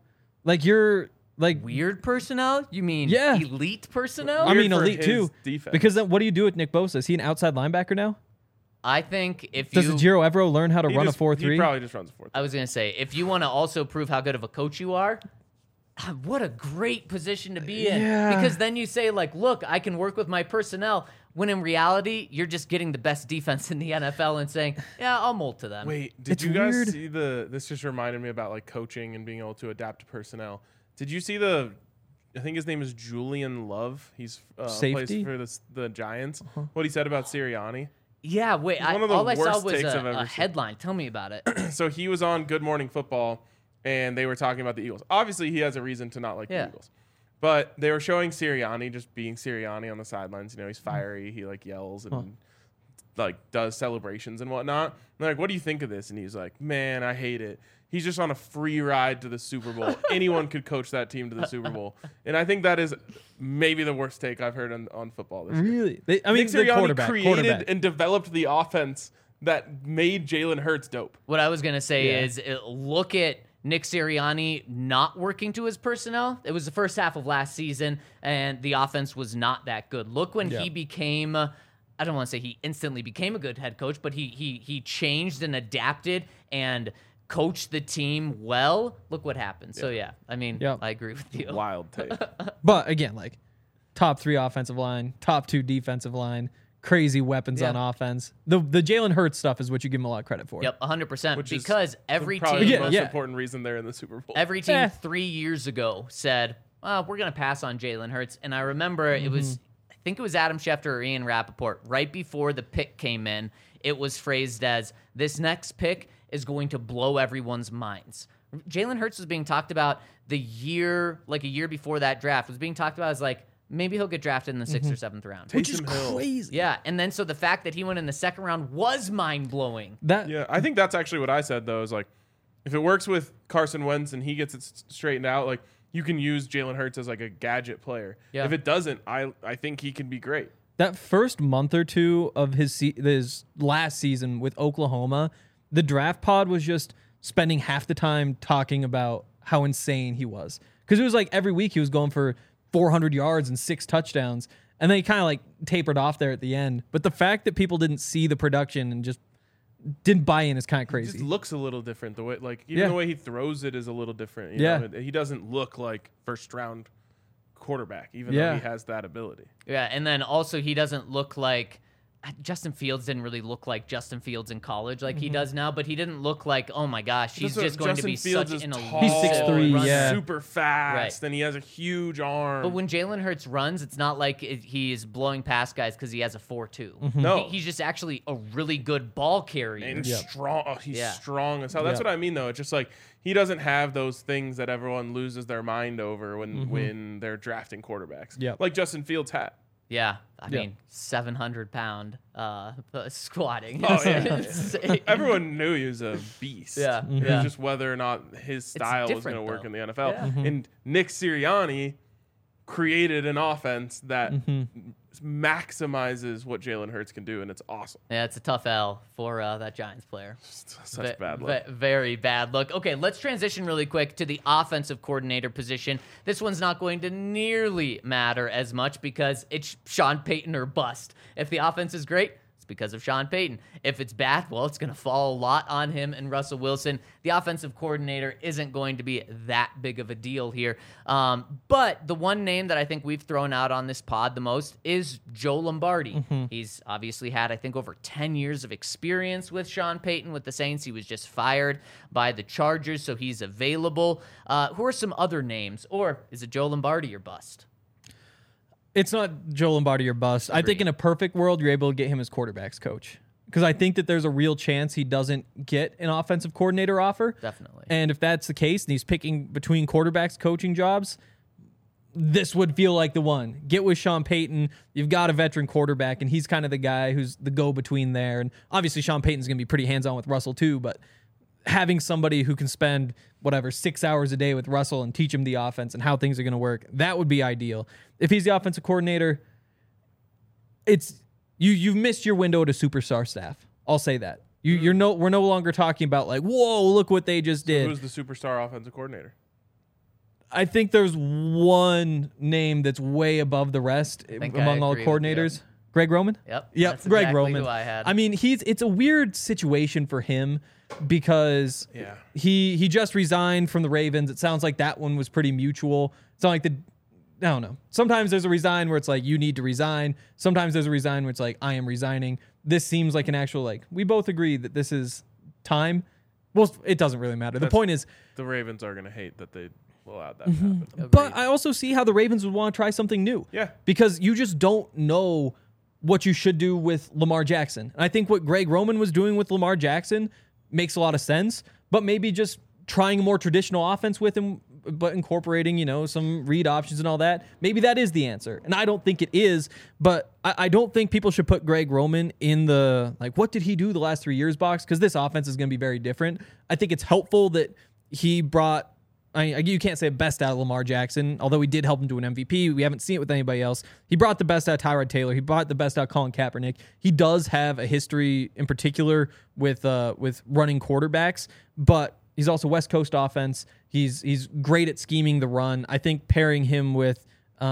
Weird personnel? You mean Yeah. elite personnel? I mean, Weird for elite his too. defense. Because then what do you do with Nick Bosa? Is he an outside linebacker now? I think if Does you... Giro Evero learn how to run a He 4-3? probably just runs a 4-3. I was going to say, if you want to also prove how good of a coach you are, what a great position to be in. Yeah. Because then you say, like, look, I can work with my personnel, when in reality, you're just getting the best defense in the NFL and saying, yeah, I'll mold to them. Wait, did It's you guys weird. see this just reminded me about like coaching and being able to adapt to personnel. Did you see I think his name is Julian Love. He's Safety? plays for the Giants. What he said about Sirianni. Yeah, wait, one of the all I saw worst was takes I've ever a seen. headline. Tell me about it. So he was on Good Morning Football, and they were talking about the Eagles. Obviously, he has a reason to not like Yeah. the Eagles. But they were showing Sirianni just being Sirianni on the sidelines. He's fiery. He like yells and like does celebrations and whatnot. And they're like, what do you think of this? And he's like, man, I hate it. He's just on a free ride to the Super Bowl. Anyone could coach that team to the Super Bowl. And I think that is maybe the worst take I've heard on football this year. Really? I mean, Nick the Sirianni created quarterback. and developed the offense that made Jalen Hurts dope. What I was going to say Yeah. is look at Nick Sirianni not working to his personnel. It was the first half of last season, and the offense was not that good. Look when he became, I don't want to say he instantly became a good head coach, but he changed and adapted and coached the team well. Look what happened. So, yeah, I mean, Yep. I agree with you. Wild take. But again, like top 3 offensive line, top 2 defensive line, crazy weapons Yeah. on offense. The Jalen Hurts stuff is what you give him a lot of credit for. Yep, 100%. Which is Because every probably team... the most Yeah. important reason they're in the Super Bowl. Every team Eh. 3 years ago said, we're going to pass on Jalen Hurts. And I remember it was, I think it was Adam Schefter or Ian Rappaport, right before the pick came in, it was phrased as, this next pick is going to blow everyone's minds. Jalen Hurts was being talked about a year before that draft, was being talked about as like, maybe he'll get drafted in the 6th or 7th round. Which is Taysom Hill. crazy. Yeah, and then so the fact that he went in the 2nd round was mind-blowing. Yeah, I think that's actually what I said, though, is like, if it works with Carson Wentz and he gets it straightened out, like, you can use Jalen Hurts as like a gadget player. Yeah. If it doesn't, I think he can be great. That first month or two of his last season with Oklahoma, the draft pod was just spending half the time talking about how insane he was. Because it was like every week he was going for 400 yards and 6 touchdowns. And then he kind of like tapered off there at the end. But the fact that people didn't see the production and just didn't buy in is kind of It crazy. just looks a little different. The way, like, even the way he throws it is a little different. You Yeah. know? He doesn't look like first round quarterback, even though he has that ability. Yeah, and then also he doesn't look like Justin Fields didn't really look like Justin Fields in college like he does now, but he didn't look like, oh my gosh, he's That's just what going to Justin be Fields such is an tall, elite He's 6'3", runner. yeah. super fast, Right. and he has a huge arm. But when Jalen Hurts runs, it's not like he is blowing past guys because he has a 4.2. No. He's just actually a really good ball carrier. and strong. Oh, he's Yeah. strong as hell. That's Yeah. what I mean, though. It's just like he doesn't have those things that everyone loses their mind over when they're drafting quarterbacks. Yep. Like Justin Fields had. Yeah, I mean, 700-pound squatting. Oh, It's yeah. insane. Everyone knew he was a beast. Yeah, It was yeah. just whether or not his style was going different, to work though. in the NFL. Yeah. And Nick Sirianni created an offense that maximizes what Jalen Hurts can do, and it's awesome. Yeah, it's a tough L for that Giants player. Such bad luck. Very bad look. Okay, let's transition really quick to the offensive coordinator position. This one's not going to nearly matter as much because it's Sean Payton or bust. If the offense is great, it's because of Sean Payton. If it's bad, well, it's going to fall a lot on him and Russell Wilson. The offensive coordinator isn't going to be that big of a deal here. But the one name that I think we've thrown out on this pod the most is Joe Lombardi. He's obviously had, I think, over 10 years of experience with Sean Payton with the Saints. He was just fired by the Chargers, so he's available. Who are some other names? Or is it Joe Lombardi or bust? It's not Joe Lombardi or bust. I think in a perfect world, you're able to get him as quarterback's coach. Because I think that there's a real chance he doesn't get an offensive coordinator offer. Definitely. And if that's the case and he's picking between quarterbacks coaching jobs, this would feel like the one. Get with Sean Payton. You've got a veteran quarterback, and he's kind of the guy who's the go-between there. And obviously Sean Payton's going to be pretty hands-on with Russell too, but having somebody who can spend 6 hours a day with Russell and teach him the offense and how things are going to work, that would be ideal. If he's the offensive coordinator, it's you've missed your window to superstar staff. I'll say that. We're no longer talking about like, whoa, look what they just did. Who's the superstar offensive coordinator? I think there's one name that's way above the rest think among I all agree with you. coordinators. Greg Roman? Yep. Yep, That's Greg exactly Roman. who I had. I mean, it's a weird situation for him because Yeah. he just resigned from the Ravens. It sounds like that one was pretty mutual. It's not like I don't know. Sometimes there's a resign where it's like you need to resign. Sometimes there's a resign where it's like I am resigning. This seems like an actual like we both agree that this is time. Well, it doesn't really matter. The point is, The Ravens are going to hate that they allowed that to happen. but I also see how the Ravens would want to try something new. Yeah. Because you just don't know what you should do with Lamar Jackson. And I think what Greg Roman was doing with Lamar Jackson makes a lot of sense, but maybe just trying a more traditional offense with him, but incorporating, some read options and all that. Maybe that is the answer. And I don't think it is, but I don't think people should put Greg Roman in the, like, what did he do the last 3 years box? Because this offense is going to be very different. I think it's helpful that he brought, you can't say best out of Lamar Jackson, although he did help him to an MVP. We haven't seen it with anybody else. He brought the best out of Tyrod Taylor. He brought the best out of Colin Kaepernick. He does have a history in particular with running quarterbacks, but he's also West Coast offense. He's great at scheming the run. I think pairing him with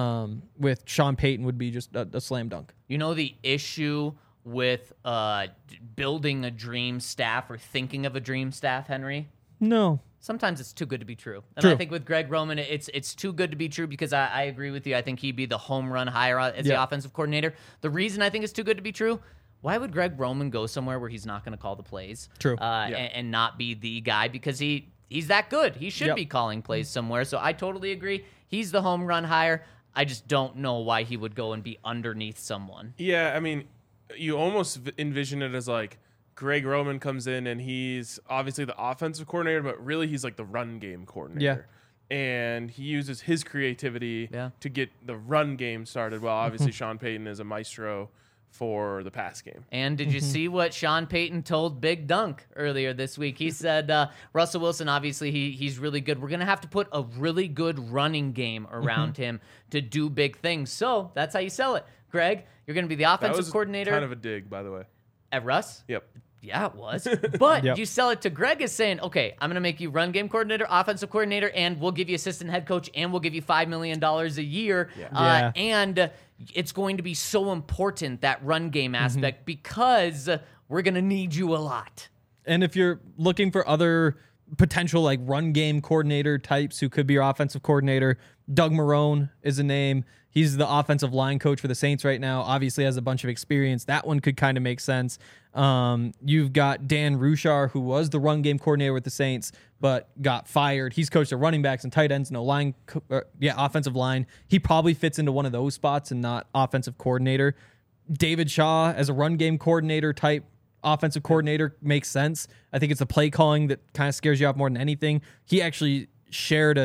Sean Payton would be just a slam dunk. The issue with building a dream staff or thinking of a dream staff, Henry? No. Sometimes it's too good to be true. And True. I think with Greg Roman, it's too good to be true because I agree with you. I think he'd be the home run hire as the offensive coordinator. The reason I think it's too good to be true, why would Greg Roman go somewhere where he's not going to call the plays? True. And not be the guy because he's that good. He should be calling plays somewhere. So I totally agree. He's the home run hire. I just don't know why he would go and be underneath someone. Yeah, I mean, you almost envision it as like Greg Roman comes in and he's obviously the offensive coordinator, but really he's like the run game coordinator. And he uses his creativity to get the run game started. Well, obviously Sean Payton is a maestro for the pass game. And did you see what Sean Payton told Big Dunk earlier this week? He said, Russell Wilson, obviously he's really good. We're going to have to put a really good running game around him to do big things. So that's how you sell it. Greg, you're going to be the offensive coordinator. Kind of a dig, by the way. At Russ? Yep. Yeah, it was. But you sell it to Greg as saying, okay, I'm going to make you run game coordinator, offensive coordinator, and we'll give you assistant head coach, and we'll give you $5 million a year. And it's going to be so important, that run game aspect, because we're going to need you a lot. And if you're looking for other potential like run game coordinator types who could be your offensive coordinator, Doug Marrone is a name. He's the offensive line coach for the Saints right now. Obviously has a bunch of experience. That one could kind of make sense. You've got Dan Ruchar, who was the run game coordinator with the Saints, but got fired. He's coached the running backs and tight ends, offensive line. He probably fits into one of those spots and not offensive coordinator. David Shaw as a run game coordinator type offensive coordinator makes sense. I think it's the play calling that kind of scares you off more than anything. He actually shared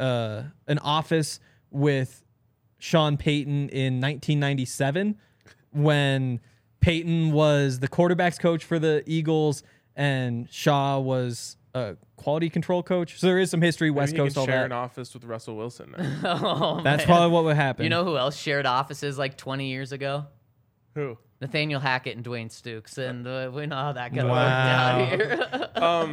an office with Sean Payton in 1997 when Payton was the quarterback's coach for the Eagles and Shaw was a quality control coach. So there is some history, West Coast, all that. Share an office with Russell Wilson now. That's probably what would happen. You know who else shared offices like 20 years ago? Who? Nathaniel Hackett and Dwayne Stukes, and we know how that got worked out here.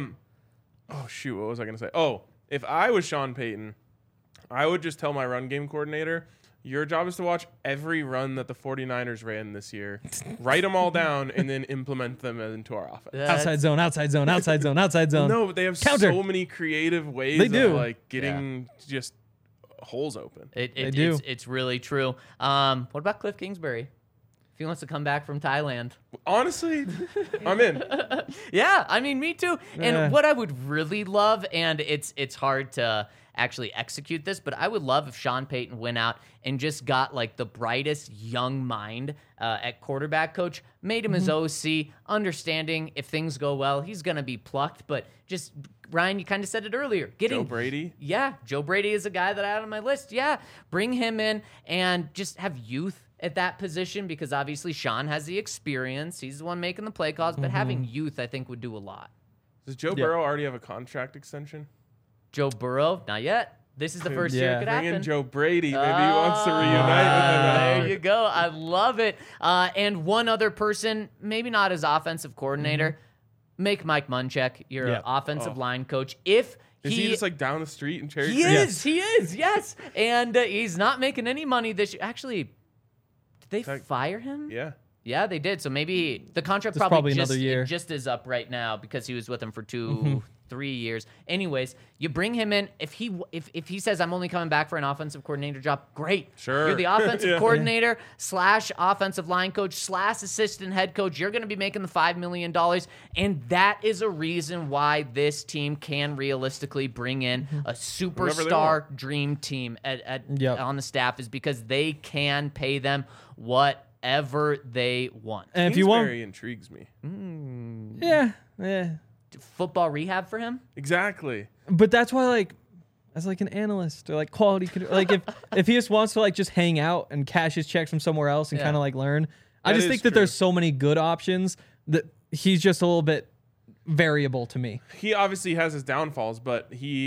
Oh, shoot, what was I going to say? Oh, if I was Sean Payton, I would just tell my run game coordinator, your job is to watch every run that the 49ers ran this year, write them all down, and then implement them into our offense. Outside zone, outside zone, outside zone, outside zone. No, but they have so many creative ways of like getting just holes open. It's really true. What about Cliff Kingsbury? If he wants to come back from Thailand. Honestly, I'm in. Yeah, I mean, me too. And what I would really love, and it's hard to actually execute this, but I would love if Sean Payton went out and just got like the brightest young mind at quarterback coach, made him his OC, understanding if things go well, he's going to be plucked. But just, Ryan, you kind of said it earlier. Joe Brady? Yeah, Joe Brady is a guy that I had on my list. Yeah, bring him in and just have youth at that position, because obviously Sean has the experience. He's the one making the play calls, but having youth, I think, would do a lot. Does Joe Burrow already have a contract extension? Joe Burrow, not yet. This is the first year it could happen. Bring in Joe Brady. Maybe he wants to reunite with him. There you go. I love it. And one other person, maybe not as offensive coordinator, make Mike Munchak your offensive line coach. Is he just like down the street in Cherry Creek? He is, yes. And he's not making any money this year. Actually, did they fire him? Yeah. Yeah, they did. So maybe the contract probably another year. Just is up right now because he was with them for 3 years. Anyways, you bring him in. If he says, I'm only coming back for an offensive coordinator job, great. Sure. You're the offensive coordinator / offensive line coach / assistant head coach. You're going to be making the $5 million. And that is a reason why this team can realistically bring in a superstar dream team on the staff, is because they can pay them whatever they want. And if you want, intrigues me. Yeah. Football rehab for him? Exactly. But that's why, like, as like an analyst or like quality, like if he just wants to like just hang out and cash his checks from somewhere else and kind of like learn, I just think that there's so many good options that he's just a little bit variable to me. He obviously has his downfalls, but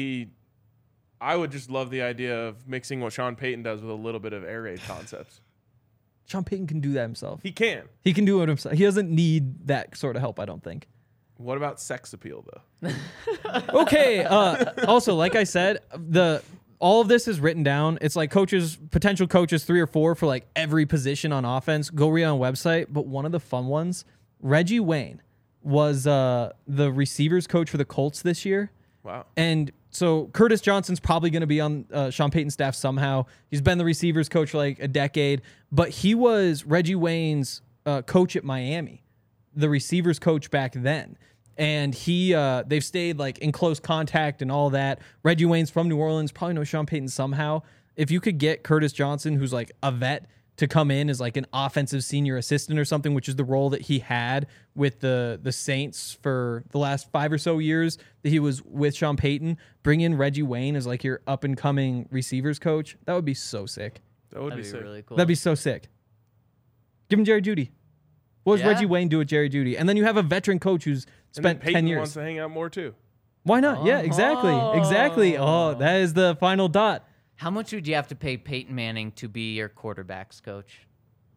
I would just love the idea of mixing what Sean Payton does with a little bit of air raid concepts. Sean Payton can do that himself. He can. He can do it himself. He doesn't need that sort of help, I don't think. What about sex appeal, though? Okay. Also, like I said, all of this is written down. It's like potential coaches, 3 or 4 for like every position on offense. Go read on a website. But one of the fun ones, Reggie Wayne was the receivers coach for the Colts this year. Wow. And so Curtis Johnson's probably going to be on Sean Payton's staff somehow. He's been the receivers coach for like a decade, but he was Reggie Wayne's coach at Miami, the receivers coach back then. And they've stayed like in close contact and all that. Reggie Wayne's from New Orleans, probably knows Sean Payton somehow. If you could get Curtis Johnson, who's like a vet, to come in as like an offensive senior assistant or something, which is the role that he had with the Saints for the last 5 or so years that he was with Sean Payton. Bring in Reggie Wayne as like your up and coming receivers coach. That would be so sick. That would That'd be be sick. really cool. That'd be so sick. Give him Jerry Jeudy. What does Yeah. Reggie Wayne do with Jerry Jeudy? And then you have a veteran coach who's And then spent Peyton 10 years. wants to hang out more too. Why not? Yeah, exactly. Exactly. Oh, that is the final dot. How much would you have to pay Peyton Manning to be your quarterbacks coach?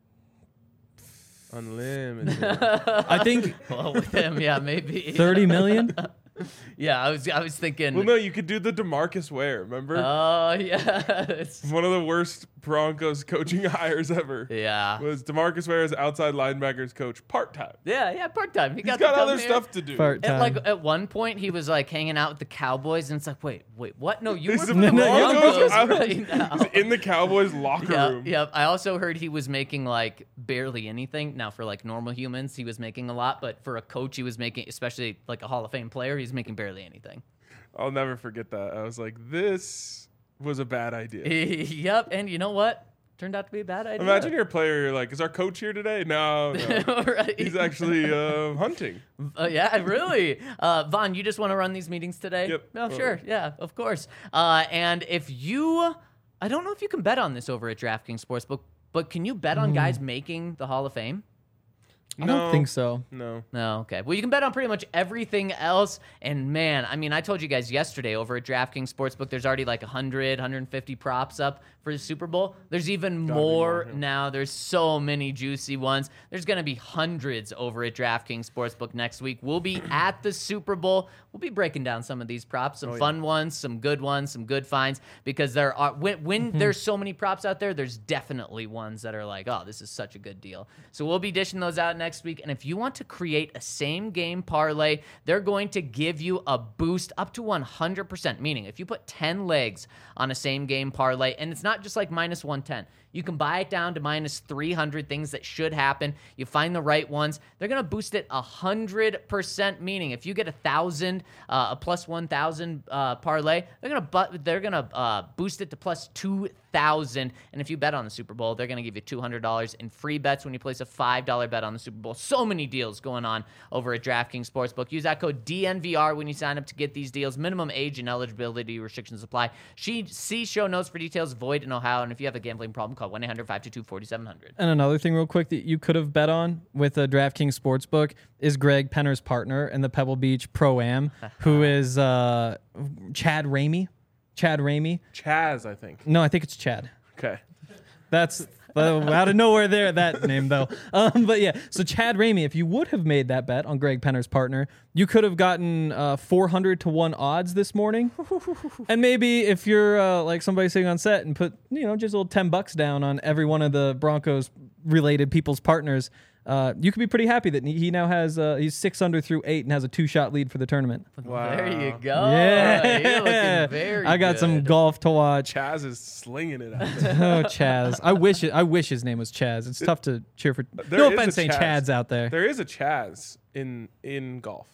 Unlimited. I think Well, with him, yeah, maybe. 30 million. Yeah, I was thinking. Well, no, you could do the DeMarcus Ware. Remember? Oh yeah. One of the worst Broncos coaching hires ever. Yeah. Was DeMarcus Ware as outside linebackers coach part time. Yeah, part time. He He's got got to come other here. stuff to do. Part And like time. at one point, he was like hanging out with the Cowboys, and it's like, wait, what? No, you were He's with the No, no, Broncos I was- right now. He's in the Cowboys locker room. Yeah. I also heard he was making like barely anything. Now for like normal humans, he was making a lot, but for a coach, he was making, especially like a Hall of Fame player, he's making barely anything. I'll never forget that. I was like, this was a bad idea. Yep, and you know what? Turned out to be a bad idea. Imagine you're a player, you're like, is our coach here today? No. Right. He's actually hunting. Yeah, really. Vaughn, you just want to run these meetings today? Yep. Oh, sure. Yeah, of course. And if you, I don't know if you can bet on this over at DraftKings Sportsbook, but can you bet on guys making the Hall of Fame? I don't think so. No. No, okay. Well, you can bet on pretty much everything else. And man, I mean, I told you guys yesterday over at DraftKings Sportsbook, there's already like 100, 150 props up for the Super Bowl. There's even more yeah. now. There's so many juicy ones. There's going to be hundreds over at DraftKings Sportsbook next week. We'll be at the Super Bowl. We'll be breaking down some of these props, some fun ones, some good finds, because there are when there's so many props out there, there's definitely ones that are like, oh, this is such a good deal. So we'll be dishing those out next week. And if you want to create a same game parlay, they're going to give you a boost up to 100%. Meaning, if you put 10 legs on a same game parlay, and it's not just like minus 110. You can buy it down to minus 300, things that should happen. You find the right ones. They're going to boost it 100%, meaning if you get 1,000, a plus 1,000 parlay, they're going to boost it to plus 2,000. And if you bet on the Super Bowl, they're going to give you $200 in free bets when you place a $5 bet on the Super Bowl. So many deals going on over at DraftKings Sportsbook. Use that code DNVR when you sign up to get these deals. Minimum age and eligibility restrictions apply. See show notes for details. Void in Ohio. And if you have a gambling problem, call 1-800-522-4700. And another thing real quick that you could have bet on with the DraftKings Sportsbook is Greg Penner's partner in the Pebble Beach Pro-Am, who is Chad Ramey. Chad Ramey. Chaz, I think. No, I think it's Chad. Okay. That's out of nowhere there, that name, though. But yeah, so Chad Ramey, if you would have made that bet on Greg Penner's partner, you could have gotten 400 to 1 odds this morning. And maybe if you're like somebody sitting on set and put, just a little $10 down on every one of the Broncos related people's partners, you could be pretty happy that he now has, he's 6 under through 8 and has a 2-shot lead for the tournament. Wow. There you go. Yeah. You're looking very I got some good. golf to watch. Chaz is slinging it out there. Oh, Chaz. I wish his name was Chaz. It's tough to cheer for. There No is a offense, saying Chaz. Chads out there. There is a Chaz in golf.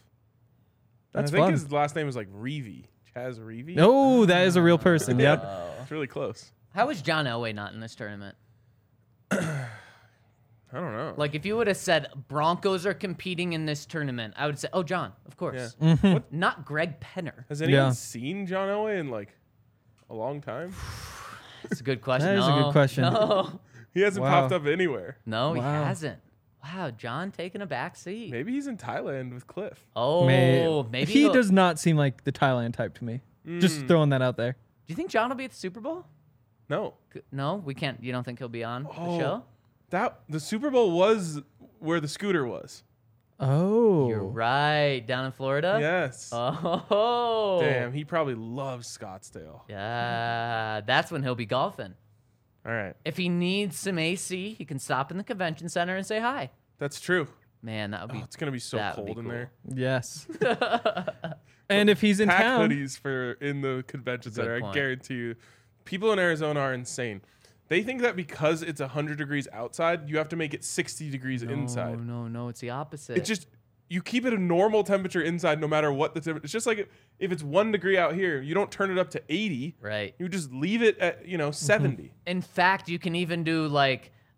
And That's I think fun. his last name is like Reevy. Chaz Reevy? Oh, that is a real person. Yep. It's really close. How is John Elway not in this tournament? I don't know. Like, if you would have said Broncos are competing in this tournament, I would say, oh, John, of course. Yeah. Mm-hmm. Not Greg Penner. Has anyone Yeah. seen John Elway in like a long time? That's a good question. That is a good question. No, He hasn't Wow. popped up anywhere. no, he Wow. hasn't. Wow, John taking a back seat. Maybe he's in Thailand with Cliff. Oh, maybe he he'll- does not seem like the Thailand type to me. Just throwing that out there. Do you think John will be at the Super Bowl? No. No, we can't. You don't think he'll be on the Oh. show? The Super Bowl was where the scooter was. Oh, You're right. Down in Florida? Yes. Oh. Damn, he probably loves Scottsdale. Yeah, that's when he'll be golfing. All right. If he needs some AC, he can stop in the convention center and say hi. That's true. Man, that would be. Oh, it's going to be so that would cold be in cool. there. yes. And if he's in Pack town, hoodies in the convention Good center. I point. guarantee you. People in Arizona are insane. They think that because it's 100 degrees outside, you have to make it 60 degrees inside. No, it's the opposite. It's just you keep it a normal temperature inside no matter what the temperature. It's just like if it's 1 degree out here, you don't turn it up to 80. right. You just leave it at 70. In fact, you can even do like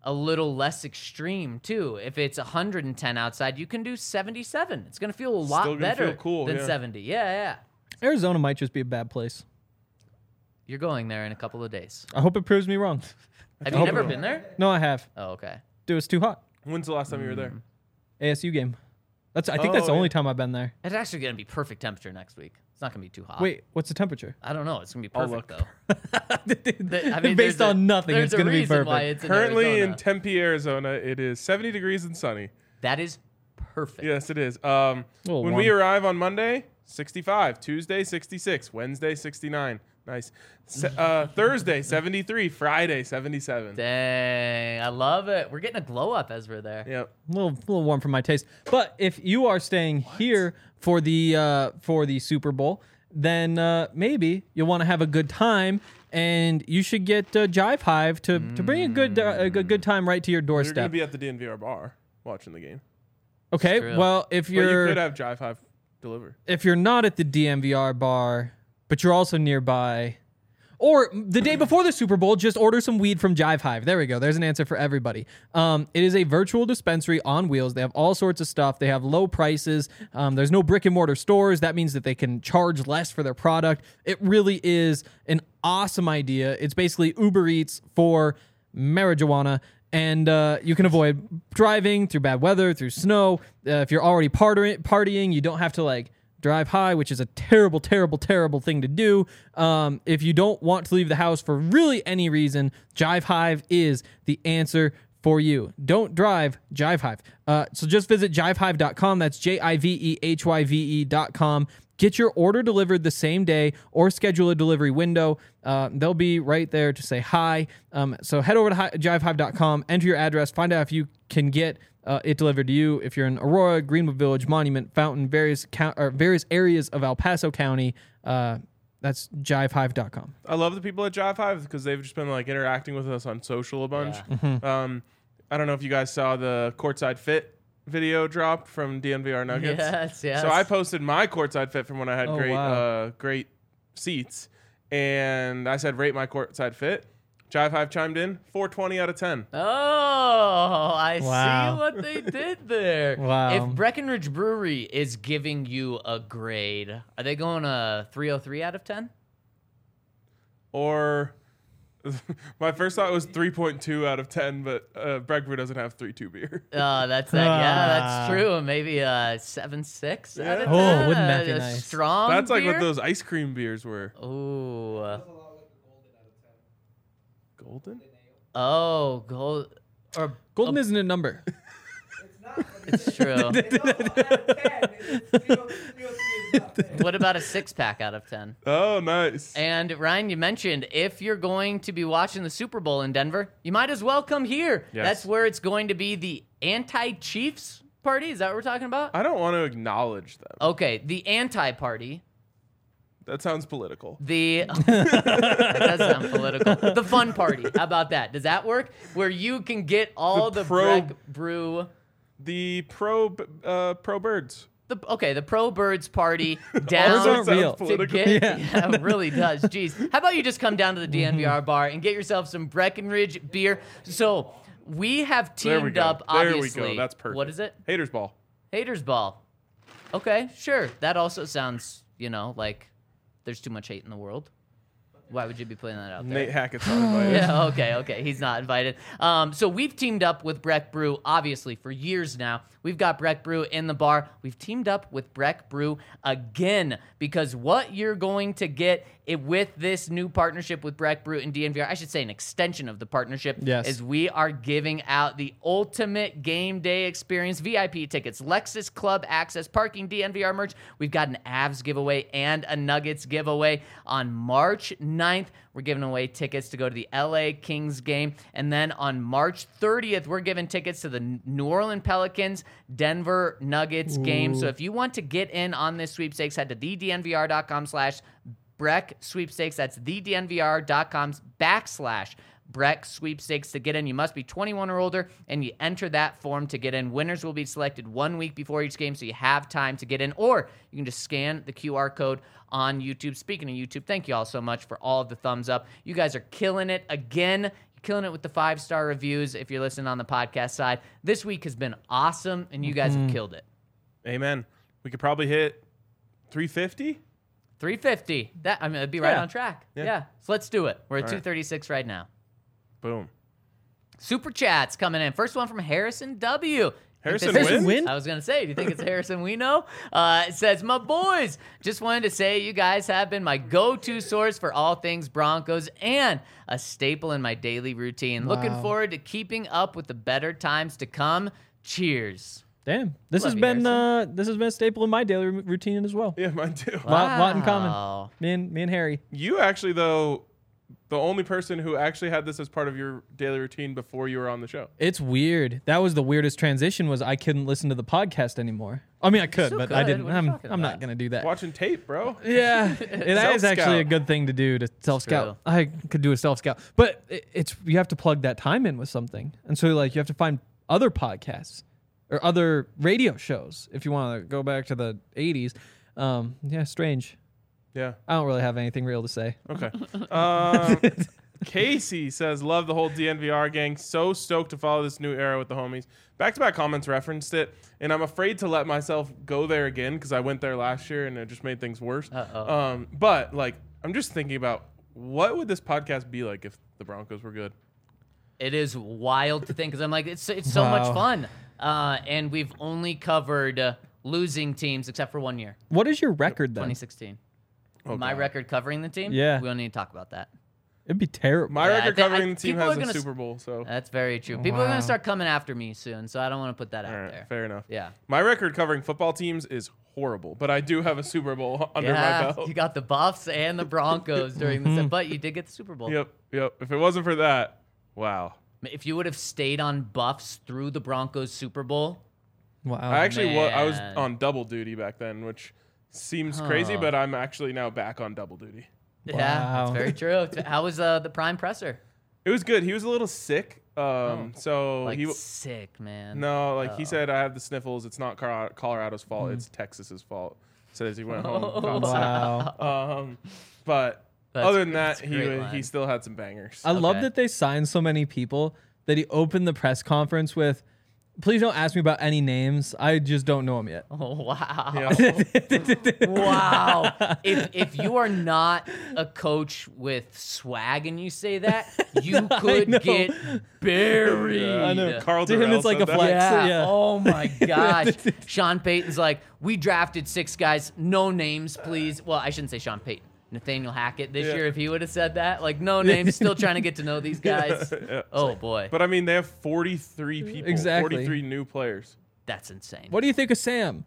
a little less extreme too. If it's 110 outside, you can do 77. It's going to feel a lot Still gonna better feel cool, than yeah. 70. Yeah. Arizona might just be a bad place. You're going there in a couple of days. I hope it proves me wrong. Have you never been there? No, I have. Oh, okay. Dude, it's too hot. When's the last time you were there? ASU game. I think that's the Oh, only yeah. time I've been there. It's actually going to be perfect temperature next week. It's not going to be too hot. Wait, what's the temperature? I don't know. It's going to be I'll perfect, look. though. I mean, Based there's on nothing, there's it's going to be reason why perfect. it's in Currently in Arizona. Tempe, Arizona, it is 70 degrees and sunny. That is perfect. Yes, it is. little When we warm. arrive on Monday, 65. Tuesday, 66. Wednesday, 69. Nice. Thursday, 73. Friday, 77. Dang, I love it. We're getting a glow up as we're there. Yep. A little warm for my taste. But if you are staying here for the Super Bowl, then maybe you'll want to have a good time, and you should get Jive Hive to bring a good time right to your You're going to doorstep. be at the DNVR bar watching the game. Okay, True. well if But you you're could have Jive Hive deliver. if you're not at the DMVR bar, but you're also nearby, or the day before the Super Bowl, just order some weed from Jive Hive. There we go. There's an answer for everybody. It is a virtual dispensary on wheels. They have all sorts of stuff. They have low prices. There's no brick and mortar stores. That means that they can charge less for their product. It really is an awesome idea. It's basically Uber Eats for marijuana. And you can avoid driving through bad weather, through snow. If you're already partying, you don't have to drive high, which is a terrible, terrible, terrible thing to do. If you don't want to leave the house for really any reason, Jive Hive is the answer for you. Don't drive, Jive Hive. So just visit jivehive.com. That's JIVEHYVE.com. Get your order delivered the same day or schedule a delivery window. They'll be right there to say hi. So head over to jivehive.com, enter your address, find out if you can get it delivered to you. If you're in Aurora, Greenwood Village, Monument, Fountain, various areas of El Paso County, that's jivehive.com. I love the people at Jive Hive because they've just been interacting with us on social a bunch. Yeah. I don't know if you guys saw the Courtside Fit video dropped from DNVR Nuggets. Yes. So I posted my courtside fit from when I had Oh, wow. great seats, and I said rate my courtside fit. Jive Hive chimed in 4.20 out of 10. Oh, I Wow. see what they did there. Wow. If Breckenridge Brewery is giving you a grade, are they going a 303 out of 10? Or my first thought was 3.2 out of 10, but Breck Brew doesn't have 3.2 beer. That's that. Yeah, that's true. Maybe a 7.6 out of 10. Oh, wouldn't that be A nice? Strong That's like beer? what those ice cream beers were. Ooh. Golden? Oh, gold. Or Golden isn't a number. it's true. What about a 6-pack out of 10? Oh, nice. And Ryan, you mentioned if you're going to be watching the Super Bowl in Denver, you might as well come here. Yes. That's where it's going to be the anti-Chiefs party. Is that what we're talking about? I don't want to acknowledge them. Okay, the anti-party. That sounds political. That does sound political. The fun party. How about that? Does that work? Where you can get all The the pro- Breck Brew. The pro birds. The Pro Birds party Ours down aren't real. to Political. get. Yeah. Yeah, it really does. Jeez. How about you just come down to the DNVR bar and get yourself some Breckenridge beer? So we have There we teamed go. up, There we obviously. go. That's perfect. What is it? Haters Ball. Haters Ball. Okay, sure. That also sounds, like there's too much hate in the world. Why would you be putting that out there? Nate Hackett's not invited. Yeah, okay. He's not invited. So we've teamed up with Breck Brew, obviously, for years now. We've got Breck Brew in the bar. We've teamed up with Breck Brew again because what you're going to get with this new partnership with Breck Brew and DNVR, I should say an extension of the partnership, Yes. is we are giving out the ultimate game day experience, VIP tickets, Lexus Club access, parking, DNVR merch. We've got an Avs giveaway and a Nuggets giveaway on March 9th. We're giving away tickets to go to the LA Kings game. And then on March 30th, we're giving tickets to the New Orleans Pelicans Denver Nuggets game. So if you want to get in on this sweepstakes, head to thednvr.com/Breck sweepstakes. That's thednvr.com/Breck sweepstakes to get in. You must be 21 or older, and you enter that form to get in. Winners will be selected 1 week before each game, so you have time to get in. Or you can just scan the QR code on YouTube. Speaking of YouTube, thank you all so much for all of the thumbs up. You guys are killing it again. You killing it with the 5-star reviews if you're listening on the podcast side. This week has been awesome, and you guys have killed it. Amen. We could probably hit 350. 350. It'd be right Yeah. on track. Yeah. Yeah. So let's do it. We're at All right. 236 right now. Boom. Super chats coming in. First one from Harrison W. Harrison Think this is- wins? I was going to say, do you think it's Harrison we know? It says, my boys, just wanted to say you guys have been my go-to source for all things Broncos and a staple in my daily routine. Looking Wow. forward to keeping up with the better times to come. Cheers. Damn, this Love has you, been Harrison. this has been a staple in my daily routine as well. Yeah, mine too. Lot in common. Wow. Me and Harry. You actually, though, the only person who actually had this as part of your daily routine before you were on the show. It's weird. That was the weirdest transition. Was I couldn't listen to the podcast anymore. I mean, I could, still but I could. didn't. What are you talking I'm not about? gonna do that. Watching tape, bro. Yeah, it is actually a Self-scout. good thing to do to self true. scout. I could do a self scout, but it's you have to plug that time in with something, and so like you have to find other podcasts or other radio shows if you want to go back to the 80s. Yeah, strange. Yeah. I don't really have anything real to say. Okay. Casey says, love the whole DNVR gang. So stoked to follow this new era with the homies. Back-to-back comments referenced it, and I'm afraid to let myself go there again because I went there last year and it just made things worse. But, like, I'm just thinking about what would this podcast be like if the Broncos were good? It is wild to think because I'm like, it's so much Wow. fun. And we've only covered losing teams except for 1 year, What is your record then? 2016. Oh, My God. record covering the team? Yeah. We don't need to talk about that. It'd be terrible. My Yeah, I record thi- I- covering the team people are has a gonna Super Bowl, so That's very true. People are going Wow. to start coming after me soon, so I don't want to put that all out right, there. fair enough. Yeah. My record covering football teams is horrible, but I do have a Super Bowl under my belt. You got the Buffs and the Broncos during the but you did get the Super Bowl. Yep. If it wasn't for that, wow. If you would have stayed on Buffs through the Broncos Super Bowl, Wow. I actually I was man. on double duty back then, which seems crazy, Huh. but I'm actually now back on double duty. yeah, Wow. that's very true. How was the prime presser? It was good. He was a little sick, so Like he sick, man. no, like he said, I have the sniffles. It's not Colorado's fault. It's Texas's fault. So as he went home. got sick. Wow. But That's- other than that, that's a great he line. still had some bangers. I love Okay. that they signed so many people that he opened the press conference with, please don't ask me about any names. I just don't know them yet. Oh, wow. Yeah. Wow. If you are not a coach with swag and you say that, you could know. get buried. I know. Carl To him, Durrell it's like said a that. flex. Yeah. Yeah. Oh my gosh. Sean Payton's like, we drafted 6 guys, no names, please. Well, I shouldn't say Sean Payton. Nathaniel Hackett this Yeah. year, if he would have said that, like no names, still trying to get to know these guys. Yeah. Oh boy, But I mean, they have 43 people, Exactly. 43 new players. that's insane. What do you think of Sam?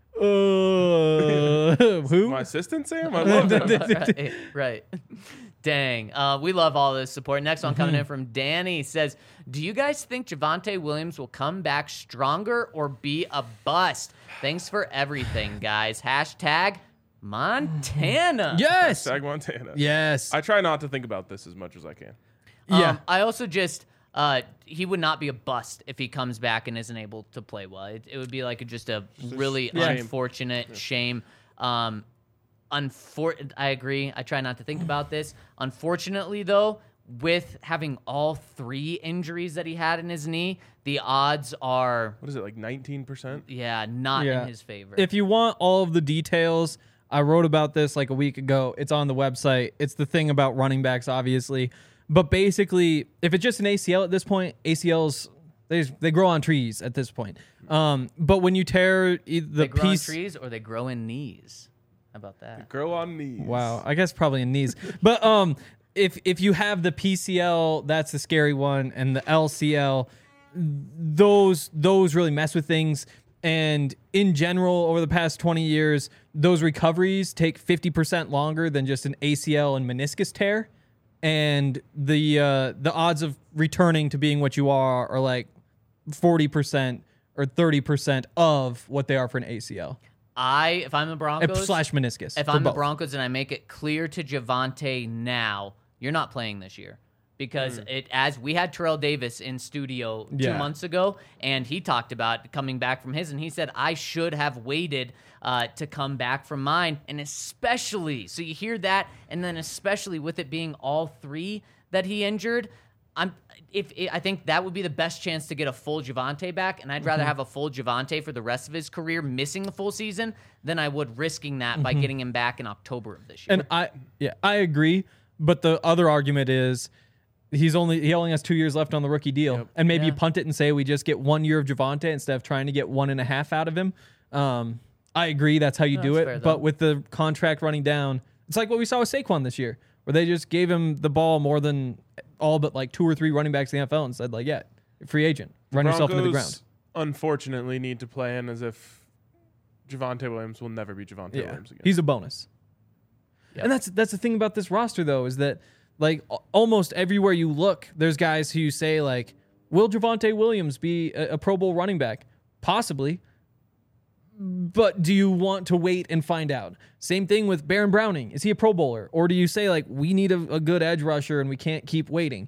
Who? My assistant Sam, I love him. right. Dang. We love all this support. Next one coming in from Danny says, do you guys think Javonte Williams will come back stronger or be a bust? Thanks for everything, guys. Hashtag Montana. Yes. Sag Montana. Yes. I try not to think about this as much as I can. Yeah. I also just he would not be a bust if he comes back and isn't able to play well. It would be like just a really shame. unfortunate shame. I agree. I try not to think about this. Unfortunately, though, with having all 3 injuries that he had in his knee, the odds are What is it, like 19%? not Yeah. in his favor. If you want all of the details, I wrote about this like a week ago. It's on the website. It's the thing about running backs, obviously. But basically, if it's just an ACL at this point, ACLs, they grow on trees at this point. But when you tear the they grow piece... in trees or they grow in knees. How about that? Grow on knees. Wow, I guess probably in knees. But if you have the PCL, that's the scary one, and the LCL, those really mess with things. And in general, over the past 20 years, those recoveries take 50% longer than just an ACL and meniscus tear. And the odds of returning to being what you are like 40% or 30% of what they are for an ACL If I'm the Broncos, slash meniscus. if for I'm the both. Broncos and I make it clear to Javonte now, you're not playing this year. Because as we had Terrell Davis in studio 2 Yeah. months ago, and he talked about coming back from his, and he said, I should have waited to come back from mine. And especially, so you hear that, and then especially with it being all 3 that he injured, I think that would be the best chance to get a full Javonte back, and I'd rather have a full Javonte for the rest of his career, missing the full season, than I would risking that by getting him back in October of this year. And I agree. But the other argument is he only has 2 years left on the rookie deal, and maybe you punt it and say we just get 1 year of Javonte instead of trying to get 1.5 out of him. I agree that's how you do it, fair, but with the contract running down, it's like what we saw with Saquon this year, where they just gave him the ball more than all but like 2 or 3 running backs in the NFL and said, like, yeah, free agent, run yourself into the ground. Unfortunately, need to plan as if Javonte Williams will never be Javonte Williams again. He's a bonus. Yep. And that's the thing about this roster, though, is that like almost everywhere you look, there's guys who say like, will Javonte Williams be a Pro Bowl running back? Possibly. But do you want to wait and find out? Same thing with Baron Browning. Is he a Pro Bowler? Or do you say, like, we need a good edge rusher and we can't keep waiting?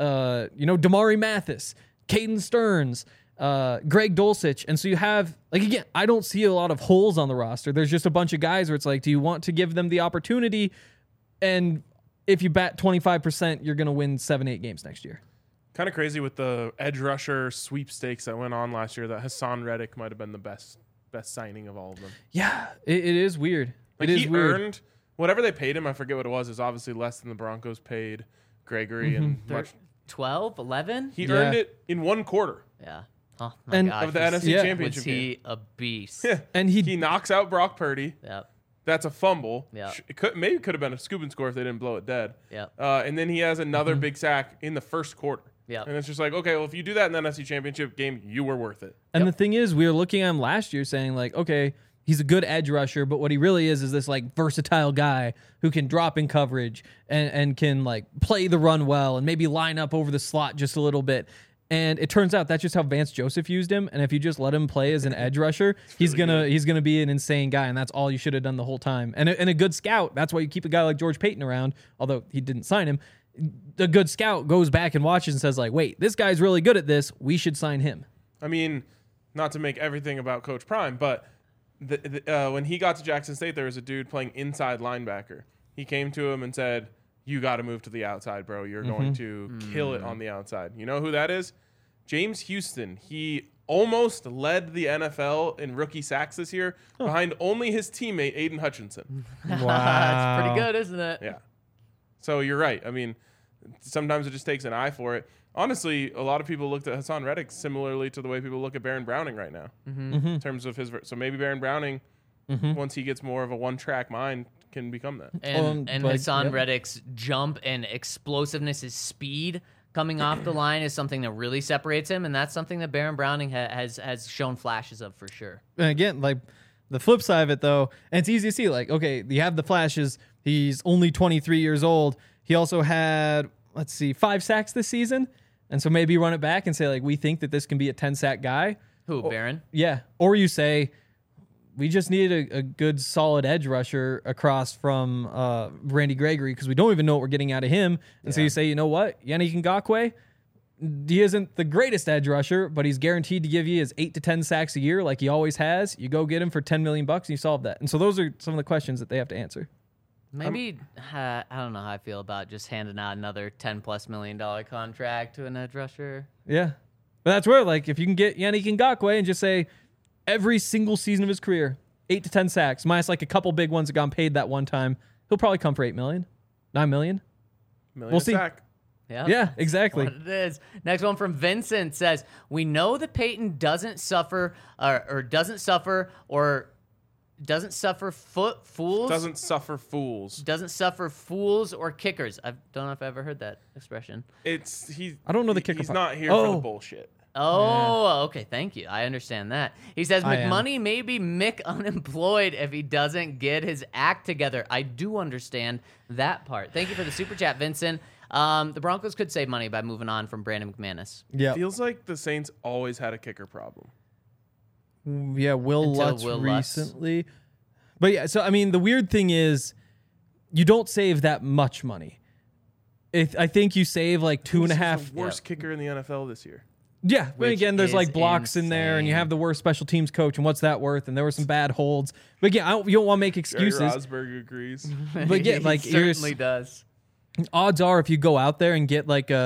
Damari Mathis, Caden Stearns, Greg Dulcich. And so you have, like, again, I don't see a lot of holes on the roster. There's just a bunch of guys where it's like, do you want to give them the opportunity? And if you bat 25%, you're going to win 7-8 games next year. Kind of crazy with the edge rusher sweepstakes that went on last year that Hassan Reddick might have been the best signing of all of them. Yeah, it is weird. Like it is he weird. earned whatever they paid him. I forget what it was. Is obviously less than the Broncos paid Gregory and much. 12, 11? He earned it in 1 quarter. Yeah. Oh my And- gosh. Of the NFC Championship Was game. he a beast? Yeah. And He knocks out Brock Purdy. Yep. That's a fumble. Yeah. It could have been a scoop and score if they didn't blow it dead. Yep. And then he has another big sack in the first quarter. Yep. And it's just like, okay, well, if you do that in the NFC Championship game, you were worth it. And the thing is, we were looking at him last year saying, like, okay, he's a good edge rusher, but what he really is this, like, versatile guy who can drop in coverage and can, like, play the run well and maybe line up over the slot just a little bit. And it turns out that's just how Vance Joseph used him. And if you just let him play as an edge rusher, he's gonna be an insane guy, and that's all you should have done the whole time. And a good scout, that's why you keep a guy like George Payton around, although he didn't sign him. The good scout goes back and watches and says, like, wait, this guy's really good at this. We should sign him. I mean, not to make everything about Coach Prime, but when he got to Jackson State, there was a dude playing inside linebacker. He came to him and said, you got to move to the outside, bro. You're going to kill it on the outside. You know who that is? James Houston. He almost led the NFL in rookie sacks this year behind only his teammate, Aiden Hutchinson. Wow. That's pretty good, isn't it? Yeah. So you're right. I mean, sometimes it just takes an eye for it. Honestly, a lot of people looked at Hassan Reddick similarly to the way people look at Baron Browning right now in terms of his. So maybe Baron Browning, once he gets more of a one-track mind, can become that. And like, Hassan Reddick's jump and explosiveness, his speed coming off the line is something that really separates him, and that's something that Baron Browning has shown flashes of for sure. And again, like, the flip side of it, though, and it's easy to see, like, okay, you have the flashes. He's only 23 years old. He also had, 5 sacks this season. And so maybe run it back and say, like, we think that this can be a 10-sack guy. Who, Baron? Yeah. Or you say, we just need a good, solid edge rusher across from Randy Gregory because we don't even know what we're getting out of him. And so you say, you know what? Yannick Ngakoue, he isn't the greatest edge rusher, but he's guaranteed to give you his 8 to 10 sacks a year like he always has. You go get him for $10 million and you solve that. And so those are some of the questions that they have to answer. Maybe, I don't know how I feel about just handing out another $10+ million contract to an edge rusher. Yeah. But that's where, like, if you can get Yannick Ngakoue and just say every single season of his career, 8 to 10 sacks, minus like a couple big ones that got paid that one time, he'll probably come for $8 million, $9 million. We'll see. Sack. Yeah, exactly. What it is. Next one from Vincent says, we know that Peyton doesn't suffer fools or kickers. I don't know if I ever heard that expression. I don't know the kicker He's part. not here for the bullshit. Oh, okay. Thank you. I understand that. He says I am. McMoney may be Mick unemployed if he doesn't get his act together. I do understand that part. Thank you for the super chat, Vincent. The Broncos could save money by moving on from Brandon McManus. Yeah. Feels like the Saints always had a kicker problem. Yeah, Will Until Lutz Will Lutz. recently. But yeah, so I mean, the weird thing is you don't save that much money. I think you save like He's $2.5. the worst kicker in the NFL this year. Yeah, but Which again, there's is like blocks in there, and you insane. have the worst special teams coach, and what's that worth? And there were some bad holds. But again, you don't want to make Jerry excuses. Rosberg agrees. But yeah, like he certainly does. odds are, if you go out there and get like a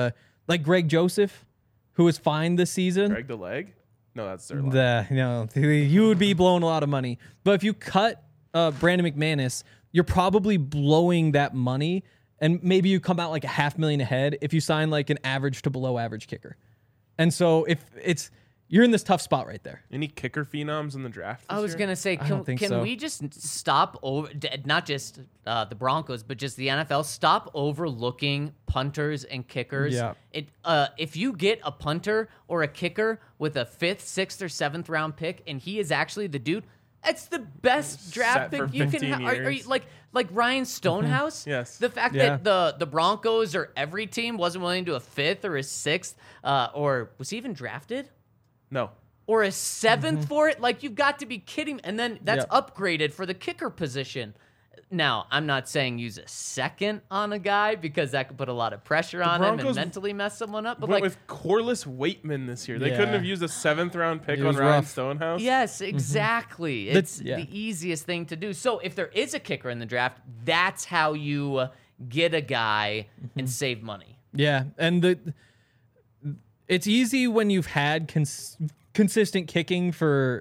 like Greg Joseph, who was fine this season. Greg the leg? No, that's Zerline. You would be blowing a lot of money. But if you cut Brandon McManus, you're probably blowing that money, and maybe you come out like $500,000 ahead if you sign like an average to below average kicker. And so you're in this tough spot right there. Any kicker phenoms in the draft this I was year? going to say, don't think so. can we just stop over, not just the Broncos, but just the NFL, stop overlooking punters and kickers? Yeah. If you get a punter or a kicker with a 5th, 6th, or 7th round pick, and he is actually the dude, it's the best draft Set for pick you can 15 have. Are you years. like Ryan Stonehouse? Yes. The fact Yeah. that the Broncos or every team wasn't willing to do a 5th or a 6th, or was he even drafted? No. Or a 7th for it? Like, you've got to be kidding. And then that's Yeah. upgraded for the kicker position. Now, I'm not saying use a 2nd on a guy because that could put a lot of pressure on him and Broncos mentally mess someone up. But Went like, with Corliss Waitman this year. They couldn't Yeah. have used a 7th round pick It on was Ryan rough. Stonehouse. yes, exactly. It's yeah. the easiest thing to do. So if there is a kicker in the draft, that's how you get a guy and save money. Yeah, and it's easy when you've had consistent kicking for,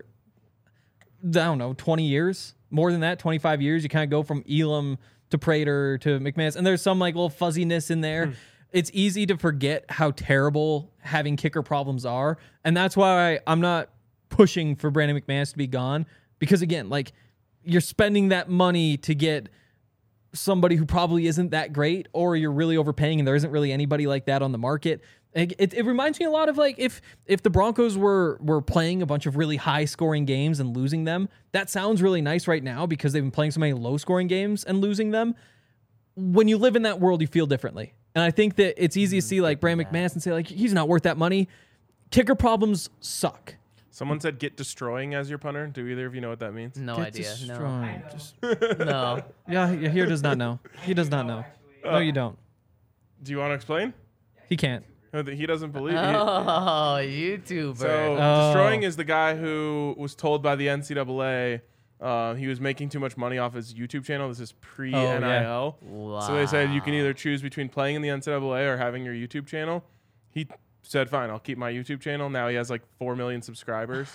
I don't know, 20 years, more than that, 25 years. You kind of go from Elam to Prater to McManus, and there's some like little fuzziness in there. It's easy to forget how terrible having kicker problems are, and that's why I'm not pushing for Brandon McManus to be gone, because again, like, you're spending that money to get somebody who probably isn't that great, or you're really overpaying and there isn't really anybody like that on the market. It reminds me a lot of like if the Broncos were playing a bunch of really high scoring games and losing them. That sounds really nice right now because they've been playing so many low scoring games and losing them. When you live in that world, you feel differently. And I think that it's easy to see like Brandon McManus and say like, he's not worth that money. Kicker problems suck. Someone said get destroying as your punter. Do either of you know what that means? No Get idea. destroyed. Just- No. No. yeah, he does not know. He does not know. No, you don't. Do you want to explain? He can't. No, that he doesn't believe you. Oh, YouTuber. So Oh. destroying is the guy who was told by the NCAA he was making too much money off his YouTube channel. This is pre-NIL. Wow. So they said you can either choose between playing in the NCAA or having your YouTube channel. He said, fine, I'll keep my YouTube channel. Now he has like 4 million subscribers.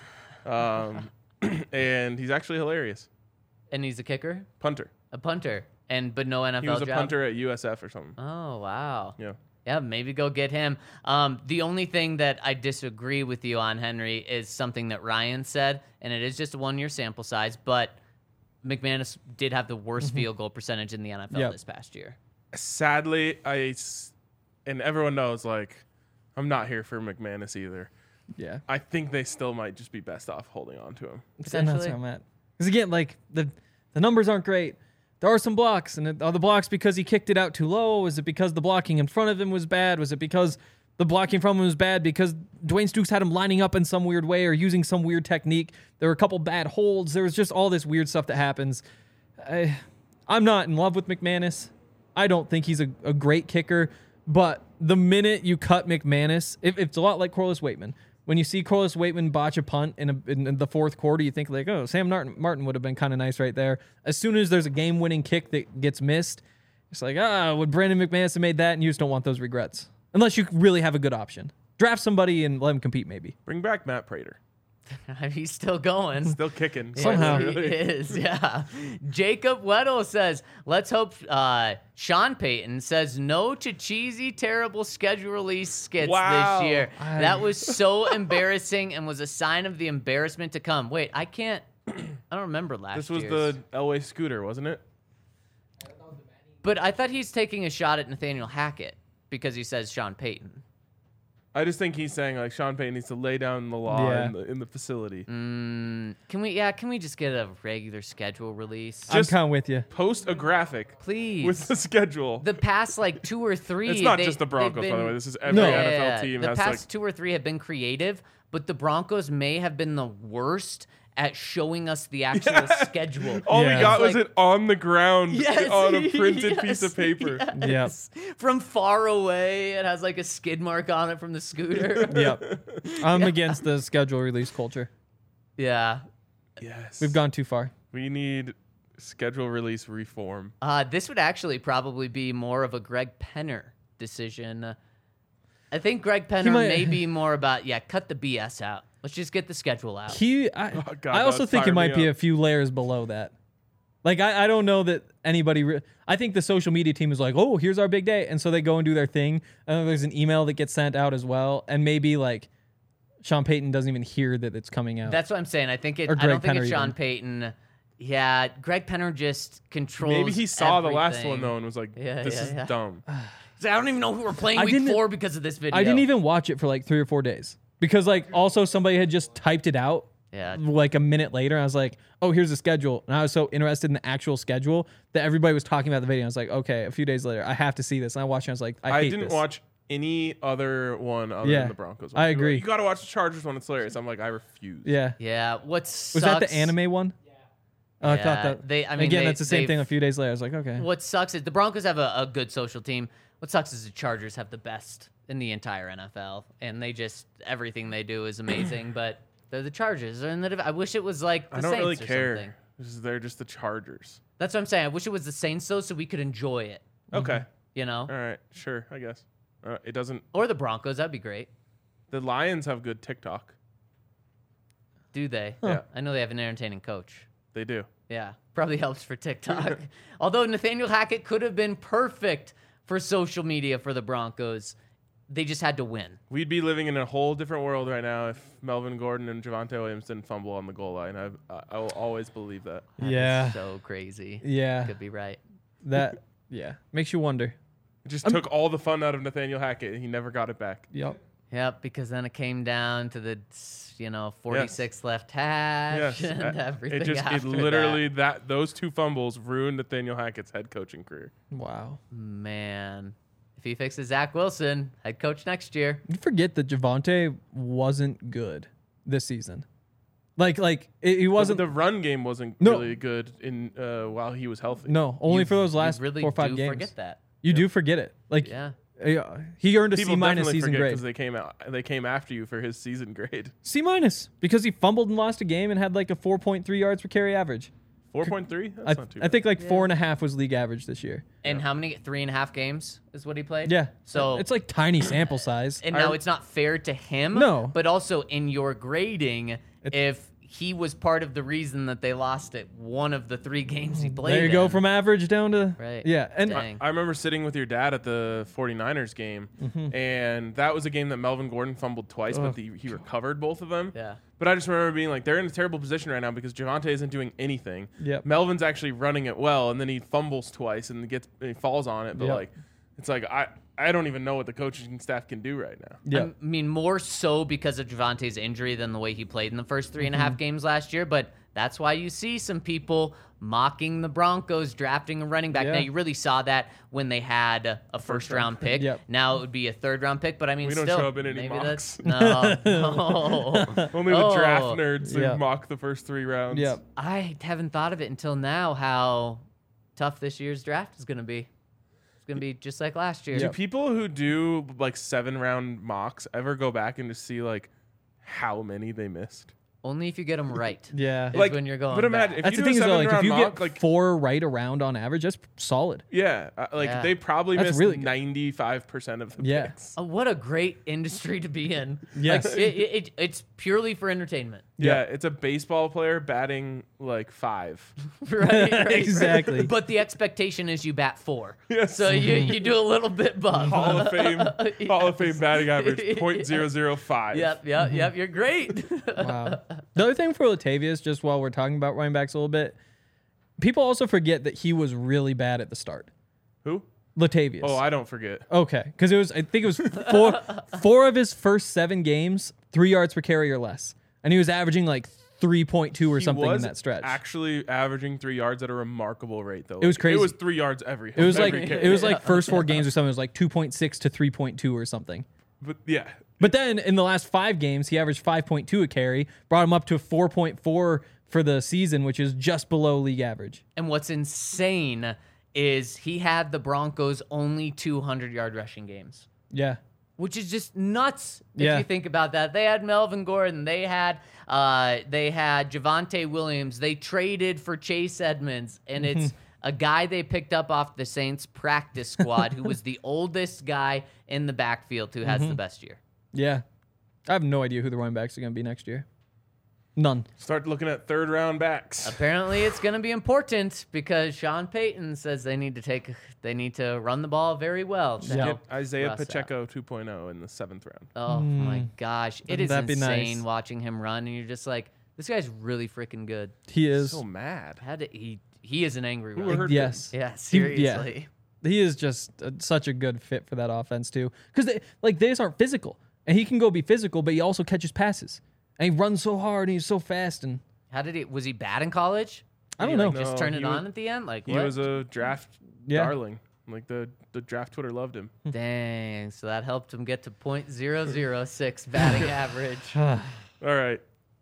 And he's actually hilarious. And he's a kicker? Punter. A punter. But no NFL He was a job? punter at USF or something. Oh, wow. Yeah. Yeah, maybe go get him. The only thing that I disagree with you on, Henry, is something that Ryan said, and it is just a 1-year sample size, but McManus did have the worst field goal percentage in the NFL Yep. this past year. Sadly, and everyone knows, like, I'm not here for McManus either. Yeah. I think they still might just be best off holding on to him. And that's Potentially. where I'm at. Because again, like the numbers aren't great. There are some blocks, and are the blocks because he kicked it out too low? Is it because the blocking in front of him was bad? Was it because the blocking from him was bad because Dwayne Stukes had him lining up in some weird way or using some weird technique? There were a couple bad holds. There was just all this weird stuff that happens. I'm not in love with McManus. I don't think he's a great kicker, but the minute you cut McManus, it's a lot like Corliss Waitman. When you see Corliss Waitman botch a punt in the fourth quarter, you think like, oh, Sam Martin would have been kind of nice right there. As soon as there's a game-winning kick that gets missed, it's like, would Brandon McManus have made that? And you just don't want those regrets. Unless you really have a good option. Draft somebody and let him compete maybe. Bring back Matt Prater. He's still going. Still kicking. Somehow. Yes, he is, yeah. Jacob Weddle says, let's hope Sean Payton says no to cheesy, terrible schedule release skits Wow. this year. That was so embarrassing and was a sign of the embarrassment to come. Wait, I don't remember last This was year's. the Elway scooter, wasn't it? But I thought he's taking a shot at Nathaniel Hackett because he says Sean Payton. I just think he's saying like Sean Payton needs to lay down the law Yeah. in the facility. Can we just get a regular schedule release? I'm Just- kind of with you. Post a graphic Please. with the schedule. The past like 2 or 3. It's not they- just the Broncos, they've by the been- way. This is every No. NFL team The has past like 2 or 3 have been creative, but the Broncos may have been the worst at showing us the actual schedule. all Yeah. we got It's was it on the ground Yes, on a printed yes, piece of paper. yes. From far away, it has like a skid mark on it from the scooter. Yep. I'm against the schedule release culture. Yeah. Yes. We've gone too far. We need schedule release reform. This would actually probably be more of a Greg Penner decision. I think Greg Penner might- may be more about, cut the BS out. Let's just get the schedule out. God, I also that think it fired might me be up. a few layers below that. Like, I don't know that anybody. I think the social media team is like, oh, here's our big day. And so they go and do their thing. And then there's an email that gets sent out as well. And maybe, like, Sean Payton doesn't even hear that it's coming out. That's what I'm saying. I think Or I don't Greg think it's Penner Sean even. Payton. Yeah, Greg Penner just controls. Maybe he saw the last everything. one though and was like, Yeah, "This yeah, is yeah. dumb." He's like, I don't even know who we're playing I week didn't- 4 because of this video. I didn't even watch it for like 3 or 4 days. Because, like, also somebody had just typed it out. Yeah. Like a minute later, I was like, "Oh, here's the schedule," and I was so interested in the actual schedule that everybody was talking about the video. I was like, "Okay." A few days later, I have to see this, and I watched it. I was like, "I hate didn't this. watch any other one other Yeah, than the Broncos. I People were like, agree. You got to watch the Chargers one. It's hilarious. I'm like, I refuse. Yeah, Yeah. What was sucks? that the anime one? Oh, I thought Yeah, that. they- Again, that's the same they've- thing. A few days later, I was like, "Okay." What sucks is the Broncos have a good social team. What sucks is the Chargers have the best in the entire NFL, and they just everything they do is amazing. But they're the Chargers, and I wish it was like the I don't Saints really or care. something. They're just the Chargers. That's what I'm saying. I wish it was the Saints though, so we could enjoy it. Okay. You know, All right. Sure. I guess. It doesn't. or the Broncos. That'd be great. The Lions have good TikTok. Do they? Yeah. I know they have an entertaining coach. They do. Yeah, probably helps for TikTok. Although Nathaniel Hackett could have been perfect for social media for the Broncos, they just had to win. We'd be living in a whole different world right now if Melvin Gordon and Javonte Williams didn't fumble on the goal line. I will always believe that. That is Yeah. so crazy. Yeah, Could be right. that. Yeah, makes you wonder. It just took all the fun out of Nathaniel Hackett. He never got it back. Yep. Yep, because then it came down to the 46 left hash Yes. and everything. It after literally those two fumbles ruined Nathaniel Hackett's head coaching career. Wow. that. Man, if he fixes Zach Wilson, head coach next year. You forget that Javonte wasn't good this season. Like he wasn't. The run game wasn't No. really good in while he was healthy. No, only for those last You really 4 or 5 do games. forget that. You do forget it. Like, Yeah. he earned a People C minus definitely season forget grade. because they came after you for his season grade. C minus because he fumbled and lost a game and had like a 4.3 yards per carry average. 4.3. I, That's not too bad. I think like 4.5 was league average this year. And how many? 3.5 games is what he played? Yeah. So it's like tiny sample size. And now it's not fair to him. No. But also in your grading, if he was part of the reason that they lost it, one of the 3 games he played. There you go in. from average down to Right. Yeah, and Dang. I remember sitting with your dad at the 49ers game, and that was a game that Melvin Gordon fumbled twice, but he recovered both of them. Yeah. But I just remember being like, they're in a terrible position right now because Javonte isn't doing anything. Yep. Melvin's actually running it well, and then he fumbles twice and he falls on it. But Yep. like, it's like I don't even know what the coaching staff can do right now. yeah. I mean, more so because of Javante's injury than the way he played in the first 3.5 games last year. But that's why you see some people mocking the Broncos drafting a running back. Yeah. Now, you really saw that when they had a first-round pick. Yep. Now it would be a third-round pick. But I mean, We don't still, show up in any maybe mocks. that's no. Only the draft Oh. nerds Yeah. mock the first 3 rounds. yeah. I haven't thought of it until now how tough this year's draft is going to be. It's going to be just like last year. Do people who do like 7-round mocks ever go back and just see like how many they missed? Only if you get them right. Yeah. Is Like, when you're going but imagine back. if That's you the do thing a is though, like if 7-round you mock, get like 4 right around on average, that's solid. yeah, Yeah. they probably That's missed really good. 95% of the Yeah. picks. Oh, what a great industry to be in. Yes. Like, it's purely for entertainment. Yeah, it's a baseball player batting like 5. Right? Exactly. But the expectation is you bat 4. Yes. So you do a little bit above. Hall of Fame batting average .005. Yep. You're great. Wow. The other thing for Latavius, just while we're talking about running backs a little bit, people also forget that he was really bad at the start. Who? Latavius. Oh, I don't forget. Okay, because I think it was four of his first 7 games, 3 yards per carry or less, and he was averaging like 3.2 or He something in was that stretch. actually averaging 3 yards at a remarkable rate, though. It was crazy. It was 3 yards every. It was like every carry. it was like first 4 games or something. It was like 2.6 to 3.2 or something. But yeah, But then in the last 5 games, he averaged 5.2 a carry, brought him up to 4.4 for the season, which is just below league average. And what's insane is he had the Broncos only 200-yard rushing games. Yeah. Which is just nuts if Yeah. you think about that. They had Melvin Gordon. They had Javonte Williams. They traded for Chase Edmonds, and it's a guy they picked up off the Saints practice squad who was the oldest guy in the backfield who has the best year. Yeah. I have no idea who the running backs are going to be next year. None. Start looking at third-round backs. Apparently, it's going to be important because Sean Payton says they need to run the ball very well to help Isaiah Russ out. Pacheco 2.0 in the 7th round. Oh my gosh, it is Wouldn't that be insane nice? watching him run, and you're just like, this guy's really freaking good. He is. So mad. He is an angry Who runner. hurt Yes. Yeah, seriously. He is just such a good fit for that offense too, because they just aren't physical, and he can go be physical, but he also catches passes, and he runs so hard, and he's so fast, and Was he bad in college? I Did don't he, know. like, just No, turn he it was- on at the end. Like He what? was a draft darling. Like the draft Twitter loved him. Dang, so that helped him get to .006 batting average. All right.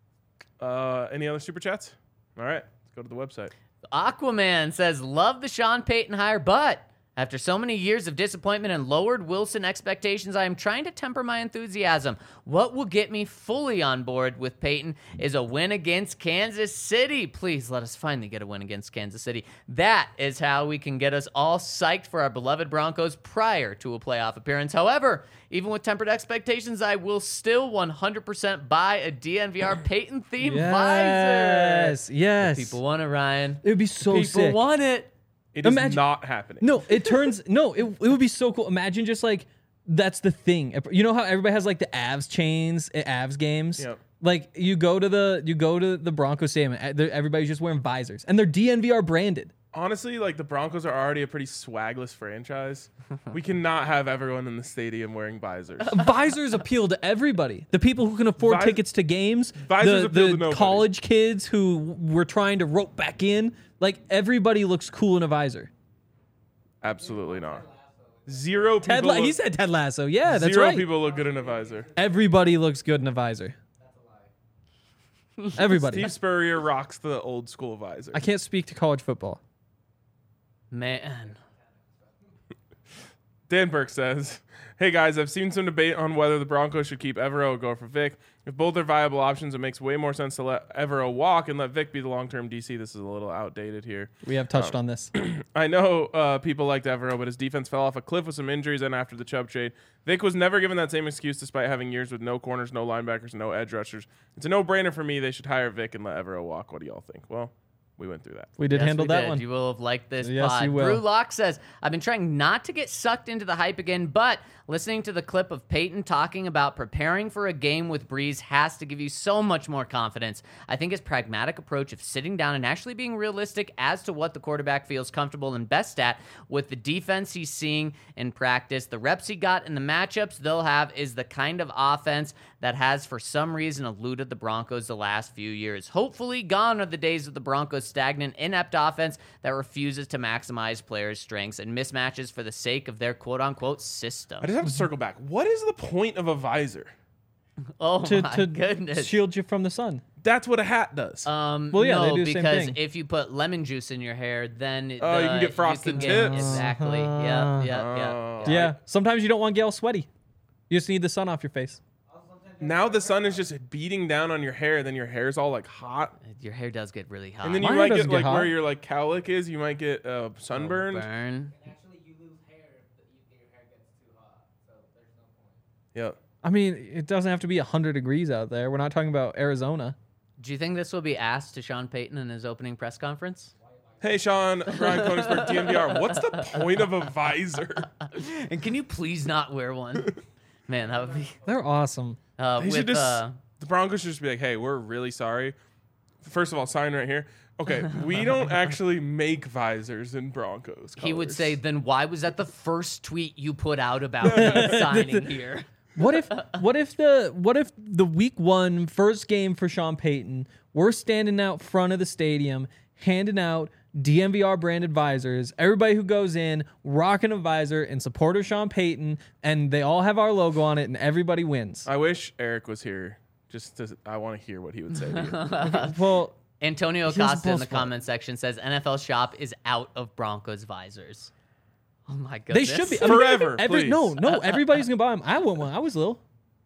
Any other super chats? All right. Let's go to the website. Aquaman says, love the Sean Payton hire, but after so many years of disappointment and lowered Wilson expectations, I am trying to temper my enthusiasm. What will get me fully on board with Payton is a win against Kansas City. Please let us finally get a win against Kansas City. That is how we can get us all psyched for our beloved Broncos prior to a playoff appearance. However, even with tempered expectations, I will still 100% buy a DNVR Payton-themed visor. Yes. People want it, Ryan. It would be so People sick. want it. It is Imagine- not happening. No, it would be so cool. Imagine just like that's the thing. You know how everybody has like the Avs chains at Avs games? Yep. Like you go to the Broncos stadium and everybody's just wearing visors and they're DNVR branded. Honestly, like the Broncos are already a pretty swagless franchise. We cannot have everyone in the stadium wearing visors. Visors appeal to everybody. The people who can afford tickets to games, Visors appeal to the nobody. college kids who were trying to rope back in. Like everybody looks cool in a visor. Absolutely not. Zero people. He said Ted Lasso. Yeah, that's zero right. people look good in a visor. Everybody looks good in a visor. Everybody. Steve Spurrier rocks the old school visor. I can't speak to college football. Man. Dan Burke says, hey guys, I've seen some debate on whether the Broncos should keep Evero or go for Vic. If both are viable options, it makes way more sense to let Evero walk and let Vic be the long-term DC. This is a little outdated here. We have touched on this. I know people liked Evero, but his defense fell off a cliff with some injuries and after the Chubb trade. Vic was never given that same excuse despite having years with no corners, no linebackers, no edge rushers. It's a no-brainer for me. They should hire Vic and let Evero walk. What do y'all think? Well, we went through that. We did Yes, handle we that did. one. You will have liked this Yes, pod. you will. Drew Locke says, I've been trying not to get sucked into the hype again, but listening to the clip of Peyton talking about preparing for a game with Breeze has to give you so much more confidence. I think his pragmatic approach of sitting down and actually being realistic as to what the quarterback feels comfortable and best at with the defense he's seeing in practice, the reps he got, and the matchups they'll have is the kind of offense that has for some reason eluded the Broncos the last few years. Hopefully gone are the days of the Broncos' stagnant, inept offense that refuses to maximize players' strengths and mismatches for the sake of their quote-unquote system. I just have to circle back. What is the point of a visor? Oh to my goodness. shield you from the sun. That's what a hat does. Well, yeah, no, they do the same because thing. if you put lemon juice in your hair, then You can get frosted tips. Exactly. Yeah. Yeah. Sometimes you don't want to get all sweaty. You just need the sun off your face. Now the sun is just beating down on your hair, then your hair's all like hot. Your hair does get really hot. And then you Mine might doesn't get get like hot. where your like cowlick is, you might get sunburned. Burn. Actually, you lose hair if your hair gets too hot, so there's no point. Yep. I mean, it doesn't have to be 100 degrees out there. We're not talking about Arizona. Do you think this will be asked to Sean Payton in his opening press conference? Hey Sean, Ryan Koenigsberg, DNVR. What's the point of a visor? And can you please not wear one? Man, that would be. They're awesome. They should just, the Broncos should just be like, hey, we're really sorry. First of all, sign right here. Okay, we don't actually make visors in Broncos he would colors. say, then why was that the first tweet you put out about me signing here? What if the week 1 first game for Sean Payton, we're standing out front of the stadium handing out DNVR branded visors. Everybody who goes in rocking a visor in support of Sean Payton, and they all have our logo on it, and everybody wins. I wish Eric was here. I want to hear what he would say to you. Well, Antonio Here's the Acosta in the best part. comment section says NFL Shop is out of Broncos visors. Oh my they goodness. should be Forever, Every, please. no, everybody's gonna buy them. I want one. I was little.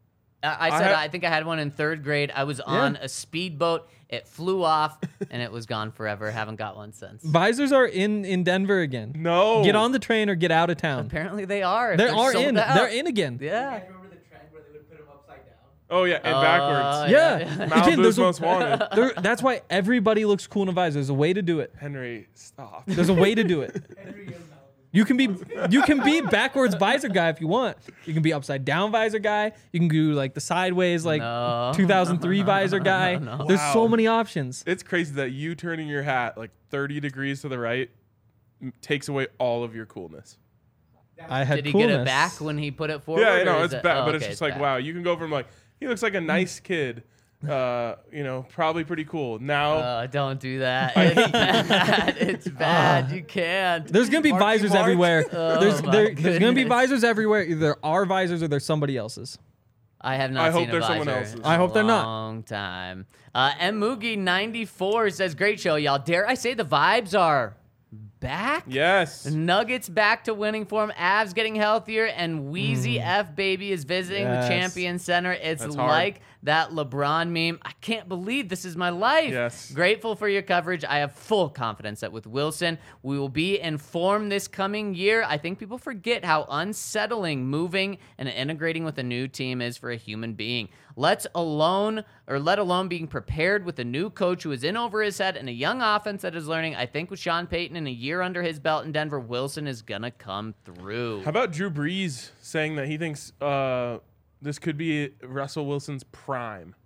I think I had one in 3rd grade. I was on a speedboat. It flew off, and it was gone forever. Haven't got one since. Visors are in Denver again. No. Get on the train or get out of town. Apparently they are. They They're are sold in. out. They're in again. Yeah. You guys remember the trend where they would put them upside down? Oh, yeah, and backwards. Yeah. Again, Malibu's there's most wanted. that's why everybody looks cool in a visor. There's a way to do it. Henry, stop. There's a way to do it. Henry and Malibu. You can be backwards visor guy if you want. You can be upside down visor guy. You can do like the sideways like No. 2003 visor guy. No. There's so Wow. many options. It's crazy that you turning your hat like 30 degrees to the right takes away all of your coolness. I had Did he coolness. get it back when he put it forward? Yeah, I or know, is it's it- bad, oh, but it's okay, just like, back. wow, you can go from like, he looks like a nice kid, probably pretty cool. Now, Don't do that. It's bad. It's bad. You can't. There's gonna be Marky visors Mark. everywhere. There's my there's gonna be goodness. visors everywhere. Either our visors or there's somebody else's. I have not I hope seen a there's someone visor else's. in I hope a they're not. long time. M. Moogie 94 says, great show, y'all. Dare I say the vibes are back? yes. Nuggets back to winning form. Avs getting healthier, and Wheezy F Baby is visiting the Yes. Champion Center. It's That's hard. like that LeBron meme. I can't believe this is my life. Yes. Grateful for your coverage. I have full confidence that with Wilson, we will be in form this coming year. I think people forget how unsettling moving and integrating with a new team is for a human being. Let alone being prepared with a new coach who is in over his head and a young offense that is learning. I think with Sean Payton and a year under his belt in Denver, Wilson is gonna come through. How about Drew Brees saying that he thinks this could be Russell Wilson's prime?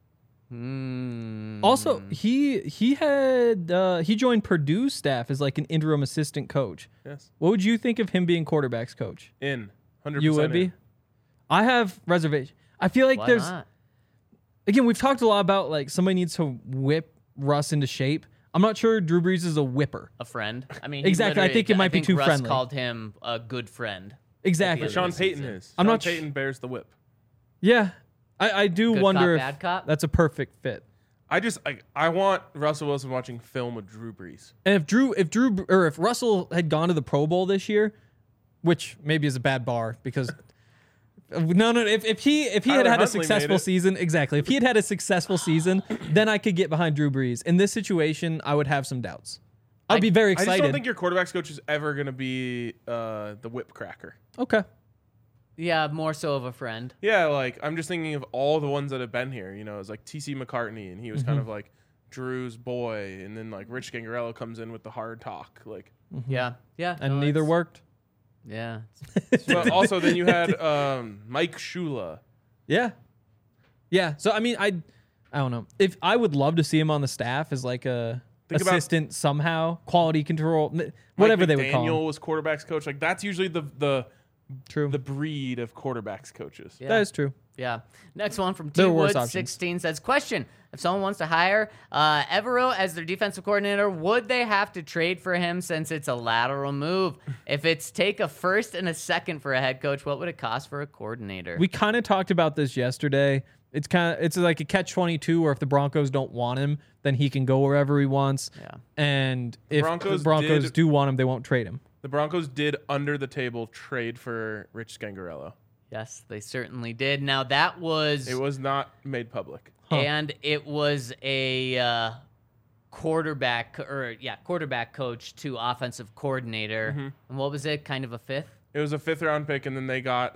Also, he joined Purdue's staff as like an interim assistant coach. Yes. What would you think of him being quarterbacks coach? In. 100% You would in. be. I have reservation. I feel like Why there's not? again we've talked a lot about like somebody needs to whip Russ into shape. I'm not sure Drew Brees is a whipper. A friend. I mean, he Exactly, I literally- think it might be too Russ friendly. called him a good friend. Exactly. But Sean This Payton season. is. I'm Sean not sh- Payton bears the whip. Yeah. I do Good wonder cop, if bad cop? that's a perfect fit. I want Russell Wilson watching film with Drew Brees. And if Russell had gone to the Pro Bowl this year, which maybe is a bad bar because if he had Tyler had a Huntley successful made it. season, exactly. If he had had a successful season, then I could get behind Drew Brees. In this situation, I would have some doubts. I'd be very I excited. just don't think your quarterback's coach is ever going to be the whip cracker. Okay. Yeah, more so of a friend. Yeah, like I'm just thinking of all the ones that have been here. You know, it's like T.C. McCartney, and he was kind of like Drew's boy, and then like Rich Gangarello comes in with the hard talk. Like, Yeah, yeah. And no, neither it's- worked. Yeah. but also then you had Mike Shula. Yeah. Yeah. So I mean, I don't know. If I would love to see him on the staff as like a Think about- assistant somehow, quality control, whatever Mike they would call McDaniel him. was quarterbacks coach. Like that's usually the True. breed of quarterbacks coaches. Yeah. That is true. Yeah. Next one from There T are worse Wood options. 16 says, question: if someone wants to hire Evero as their defensive coordinator, would they have to trade for him since it's a lateral move? If it's take a first and a second for a head coach, what would it cost for a coordinator? We kind of talked about this yesterday. It's like a catch-22 where if the Broncos don't want him, then he can go wherever he wants. Yeah. And if Broncos the Broncos did- do want him, they won't trade him. The Broncos did under the table trade for Rich Gangarello. Yes, they certainly did. Now that was It was not made public. and it was a quarterback coach to offensive coordinator. Mm-hmm. And what was it? Kind of a fifth? It was a 5th round pick, and then they got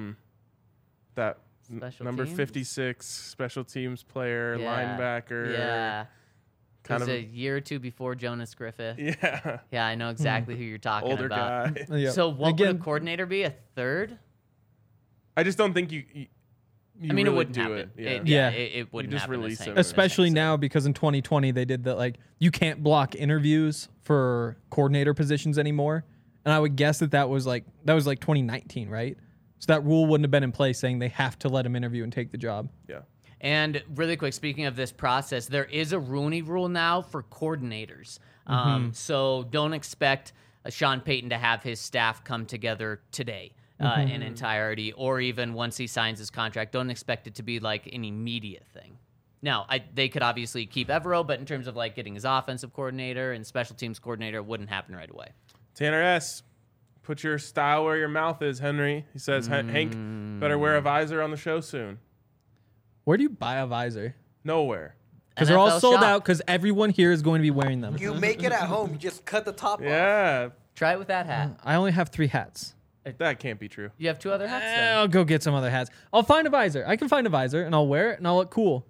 that Special number teams? 56 special teams player, Yeah. linebacker. Yeah. kind It was of a year or two before Jonas Griffith. yeah, Yeah, I know exactly who you're talking older about. guy. Yeah. So what Again, would a coordinator be? A third? I just don't think you I mean, really it wouldn't do happen. it. Yeah. Yeah. It wouldn't just happen. the release same- him. the especially same. now because in 2020 they did that, like you can't block interviews for coordinator positions anymore. And I would guess that was like 2019, right? So that rule wouldn't have been in place saying they have to let him interview and take the job. Yeah. And really quick, speaking of this process, there is a Rooney Rule now for coordinators. So don't expect Sean Payton to have his staff come together today in entirety, or even once he signs his contract. Don't expect it to be like an immediate thing. Now, they could obviously keep Evero, but in terms of like getting his offensive coordinator and special teams coordinator, it wouldn't happen right away. Tanner S. Put your style where your mouth is, Henry. He says Hank better wear a visor on the show soon. Where do you buy a visor? Nowhere. Because they're all NFL sold shop. out. Because everyone here is going to be wearing them. You make it at home. You just cut the top off. Yeah, Try it with that hat. I only have 3 hats. that can't be true. You have 2 other hats then. I'll go get some other hats. I'll find a visor. I can find a visor and I'll wear it and I'll look cool.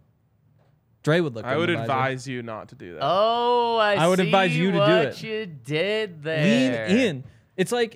Dre would look. I good would in a visor. advise you not to do that. Oh, I would see advise you to do what it. you did there. Lean in. It's like,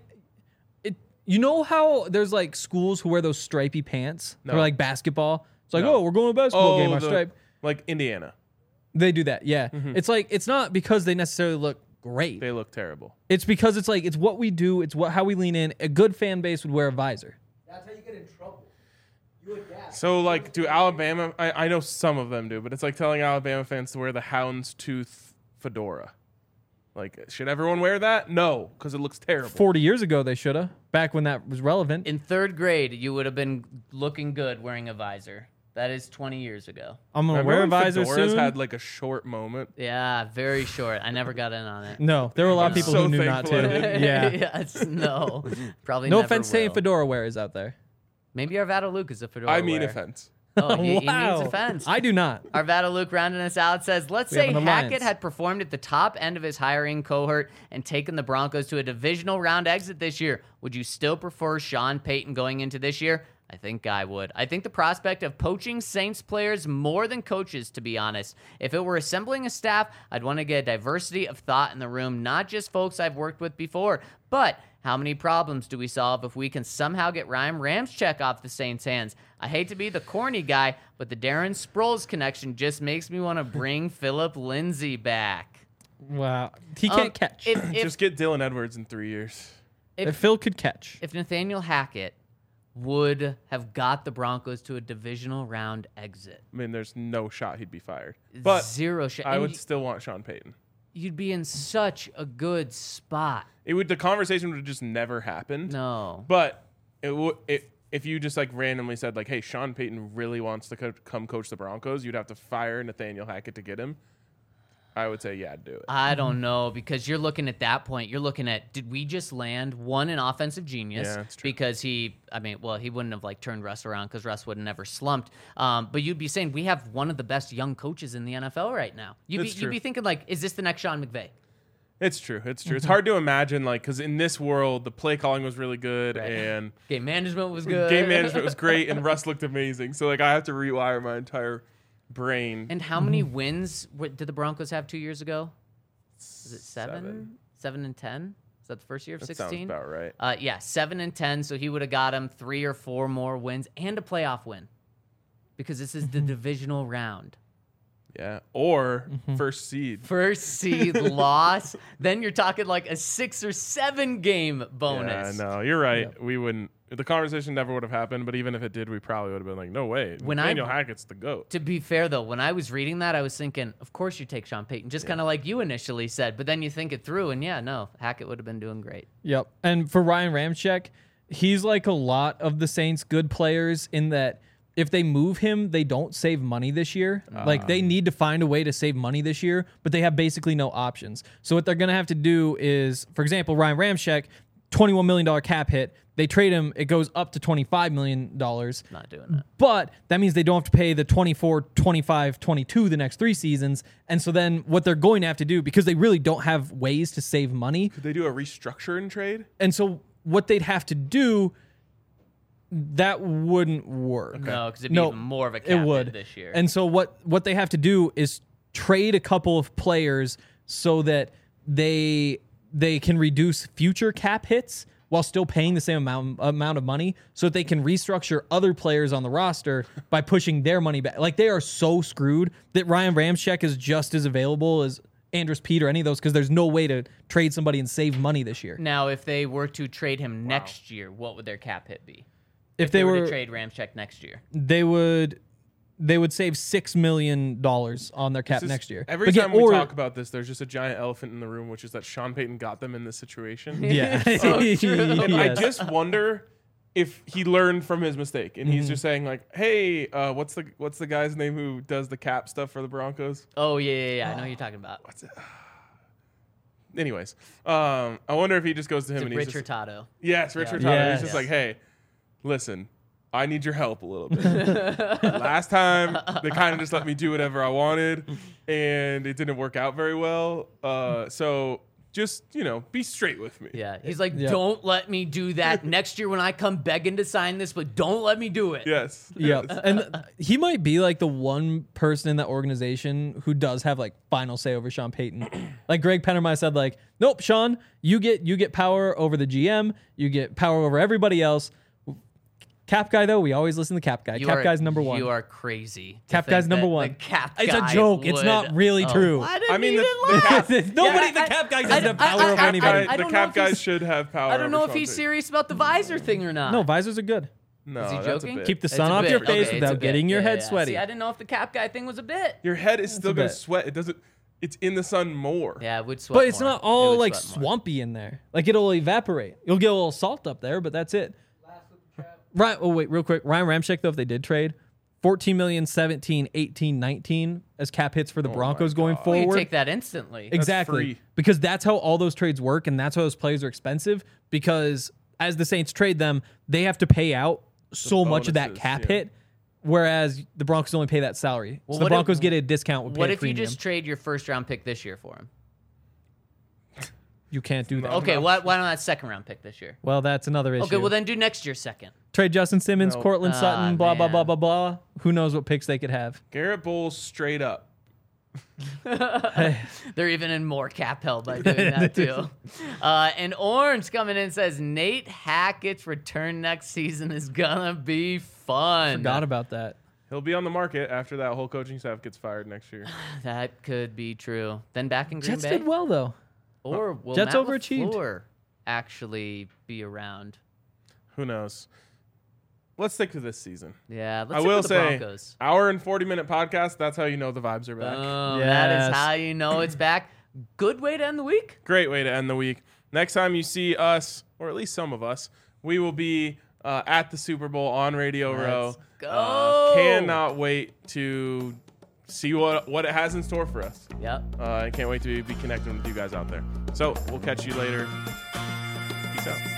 you know how there's like schools who wear those stripy pants for No. like basketball. It's like, No. oh, we're going to a basketball game. Our stripe. like Indiana. They do that. Yeah. It's like it's not because they necessarily look great. They look terrible. It's because it's like it's what we do. It's how we lean in. A good fan base would wear a visor. That's how you get in trouble. You adapt. So, like, do Alabama... I know some of them do, but it's like telling Alabama fans to wear the houndstooth fedora. Like, should everyone wear that? No, because it looks terrible. 40 years ago, they should have. Back when that was relevant. In 3rd grade, you would have been looking good wearing a visor. That is 20 years ago. I'm going to Remember wear a when visor fedoras soon. had, like, a short moment? Yeah, very short. I never got in on it. No, there were a lot of I'm people so who knew not thankful I to. didn't. Yeah. Yes, no. Probably No never offense to any will. fedora wearers out there. Maybe Arvada Luke is a fedora I mean wearer. offense. Oh, he means Wow. offense. I do not. Arvada Luke rounding us out says, let's We have say an Hackett alliance. had performed at the top end of his hiring cohort and taken the Broncos to a divisional round exit this year. Would you still prefer Sean Payton going into this year? I think I would. I think the prospect of poaching Saints players more than coaches, to be honest. If it were assembling a staff, I'd want to get a diversity of thought in the room, not just folks I've worked with before. But how many problems do we solve if we can somehow get Ryan Ramczyk off the Saints' hands? I hate to be the corny guy, but the Darren Sproles connection just makes me want to bring Philip Lindsay back. Wow. He can't catch. If, Just get Dylan Edwards in 3 years. If Phil could catch. if Nathaniel Hackett would have got the Broncos to a divisional round exit, I mean, there's no shot he'd be fired. But zero shot. I And would still want Sean Payton. you'd be in such a good spot. The conversation would have just never happened. No. But if you just like randomly said like, hey, Sean Payton really wants to come coach the Broncos, you'd have to fire Nathaniel Hackett to get him. I would say, yeah, do it. I don't know, because you're looking at that point. You're looking at, did we just land an offensive genius? Yeah, that's true. Because he wouldn't have like turned Russ around because Russ would have never slumped. But you'd be saying we have one of the best young coaches in the NFL right now. You'd That's be true. thinking like, is this the next Sean McVay? It's true. It's hard to imagine, like, because in this world, the play calling was really good and Game management was good. game management was great, and Russ looked amazing. So, like, I have to rewire my entire brain. And how many wins did the Broncos have 2 years ago? Is it 7? Seven. 7 and 10? Is that the first year of That 16? sounds about right. Yeah, 7 and 10. So he would have got him 3 or 4 more wins and a playoff win, because this is the divisional round. Yeah. Or first seed. First seed loss, then you're talking like a 6 or 7 game Yeah, bonus. no, you're right. We wouldn't. The conversation never would have happened. But even if it did, we probably would have been like, no way. When Nathaniel Hackett's the GOAT. To be fair, though, when I was reading that, I was thinking, of course you take Sean Payton, just kind of like you initially said. But then you think it through, and yeah, no, Hackett would have been doing great. Yep. And for Ryan Ramczyk, he's like a lot of the Saints' good players in that if they move him, they don't save money this year. Like they need to find a way to save money this year, but they have basically no options. So what they're going to have to do is, for example, Ryan Ramczyk, $21 million cap hit. They trade him, it goes up to $25 million. Not doing that. But that means they don't have to pay the 24, 25, 22 the next 3 seasons. And so then what they're going to have to do, because they really don't have ways to save money, Could they do a restructure and trade? and so what they'd have to do, that wouldn't work. No, because it'd be even more of a cap it hit would this year. And so what they have to do is trade a couple of players so that they can reduce future cap hits while still paying the same amount of money, so that they can restructure other players on the roster by pushing their money back. Like, they are so screwed that Ryan Ramczyk is just as available as Andrus Peat or any of those, because there's no way to trade somebody and save money this year. Now, if they were to trade him next year, what would their cap hit be? If They they were to were, trade Ramczyk next year. they would save $6 million on their cap This is- next year. Every But time yeah, we or- talk about this, there's just a giant elephant in the room, which is that Sean Payton got them in this situation. yeah, And I Yes. just wonder if he learned from his mistake, and he's just saying like, "Hey, what's the guy's name who does the cap stuff for the Broncos?" Oh, yeah. I know who you're talking about. What's it? Anyways, I wonder if he just goes to him It's and he's Rich just, Hurtado. yes, Richard Yeah. Hurtado. He's just Yes. like, "Hey, listen, I need your help a little bit. Last time, they kind of just let me do whatever I wanted, and it didn't work out very well. So just, be straight with me. Yeah, he's like, don't let me do that next year when I come begging to sign this, but don't let me do it. Yes. Yep. Yes. And he might be like the one person in that organization who does have like final say over Sean Payton. Like Greg Pennermeyer said, like, nope, Sean, you get power over the GM, you get power over everybody else. Cap guy, though, we always listen to Cap guy. Cap guy's number one. You are crazy. Cap guy's number one. Cap It's guy a joke. It's not really true. I mean, The Cap guy doesn't have power over anybody. I The don't know Cap if guy he's- should have power. I don't know over if he's Sean serious about the visor thing or not. No, visors are good. Payton. No, Is he that's a joking? bit. Keep the It's sun a off bit. your face Okay, it's a without bit. getting your Yeah, head yeah. sweaty. See, I didn't know if the Cap guy thing was a bit. Your head is still going bit. to sweat. It doesn't. It's in the sun more. Yeah, it would sweat But it's more. not It all would like sweat more. swampy in there. Like it'll evaporate. You'll get a little salt up there, but that's it. Right. Oh, wait, real quick. Ryan Ramczyk, though, if they did trade, 14 million, 17, 18, 19 as cap hits for the Broncos going Well, you forward. take that instantly. Exactly. free. Because that's how all those trades work, and that's how those players are expensive. Because as the Saints trade them, they have to pay out so much of that bonuses, cap yeah. hit, whereas the Broncos only pay that salary. Well, so the what if- Broncos get a discount with What pay if you premium. just trade your first round pick this year for him? You can't do that. Okay, why not that second round pick this year? Well, that's another issue. Okay, well then do next year's second. Trade Justin Simmons, No. Cortland Sutton, blah, blah, man. blah, blah, blah. Who knows what picks they could have. Garrett Bowles straight up. They're even in more cap hell by doing that too. And Orange coming in says Nate Hackett's return next season is gonna be fun. Forgot about that. He'll be on the market after that whole coaching staff gets fired next year. That could be true. Then back in Green Jets Bay, did well, though. or will Jets Matt overachieved. LaFleur actually be around? Who knows? Let's stick to this season. Yeah, let's I stick will with the say, Broncos. hour and 40-minute podcast, that's how you know the vibes are back. That Yes. is how you know it's back. Good way to end the week. Great way to end the week. Next time you see us, or at least some of us, we will be at the Super Bowl on Radio Row. Let's go. Cannot wait to see what it has in store for us. Yep. I can't wait to be connecting with you guys out there. So we'll catch you later. Peace out.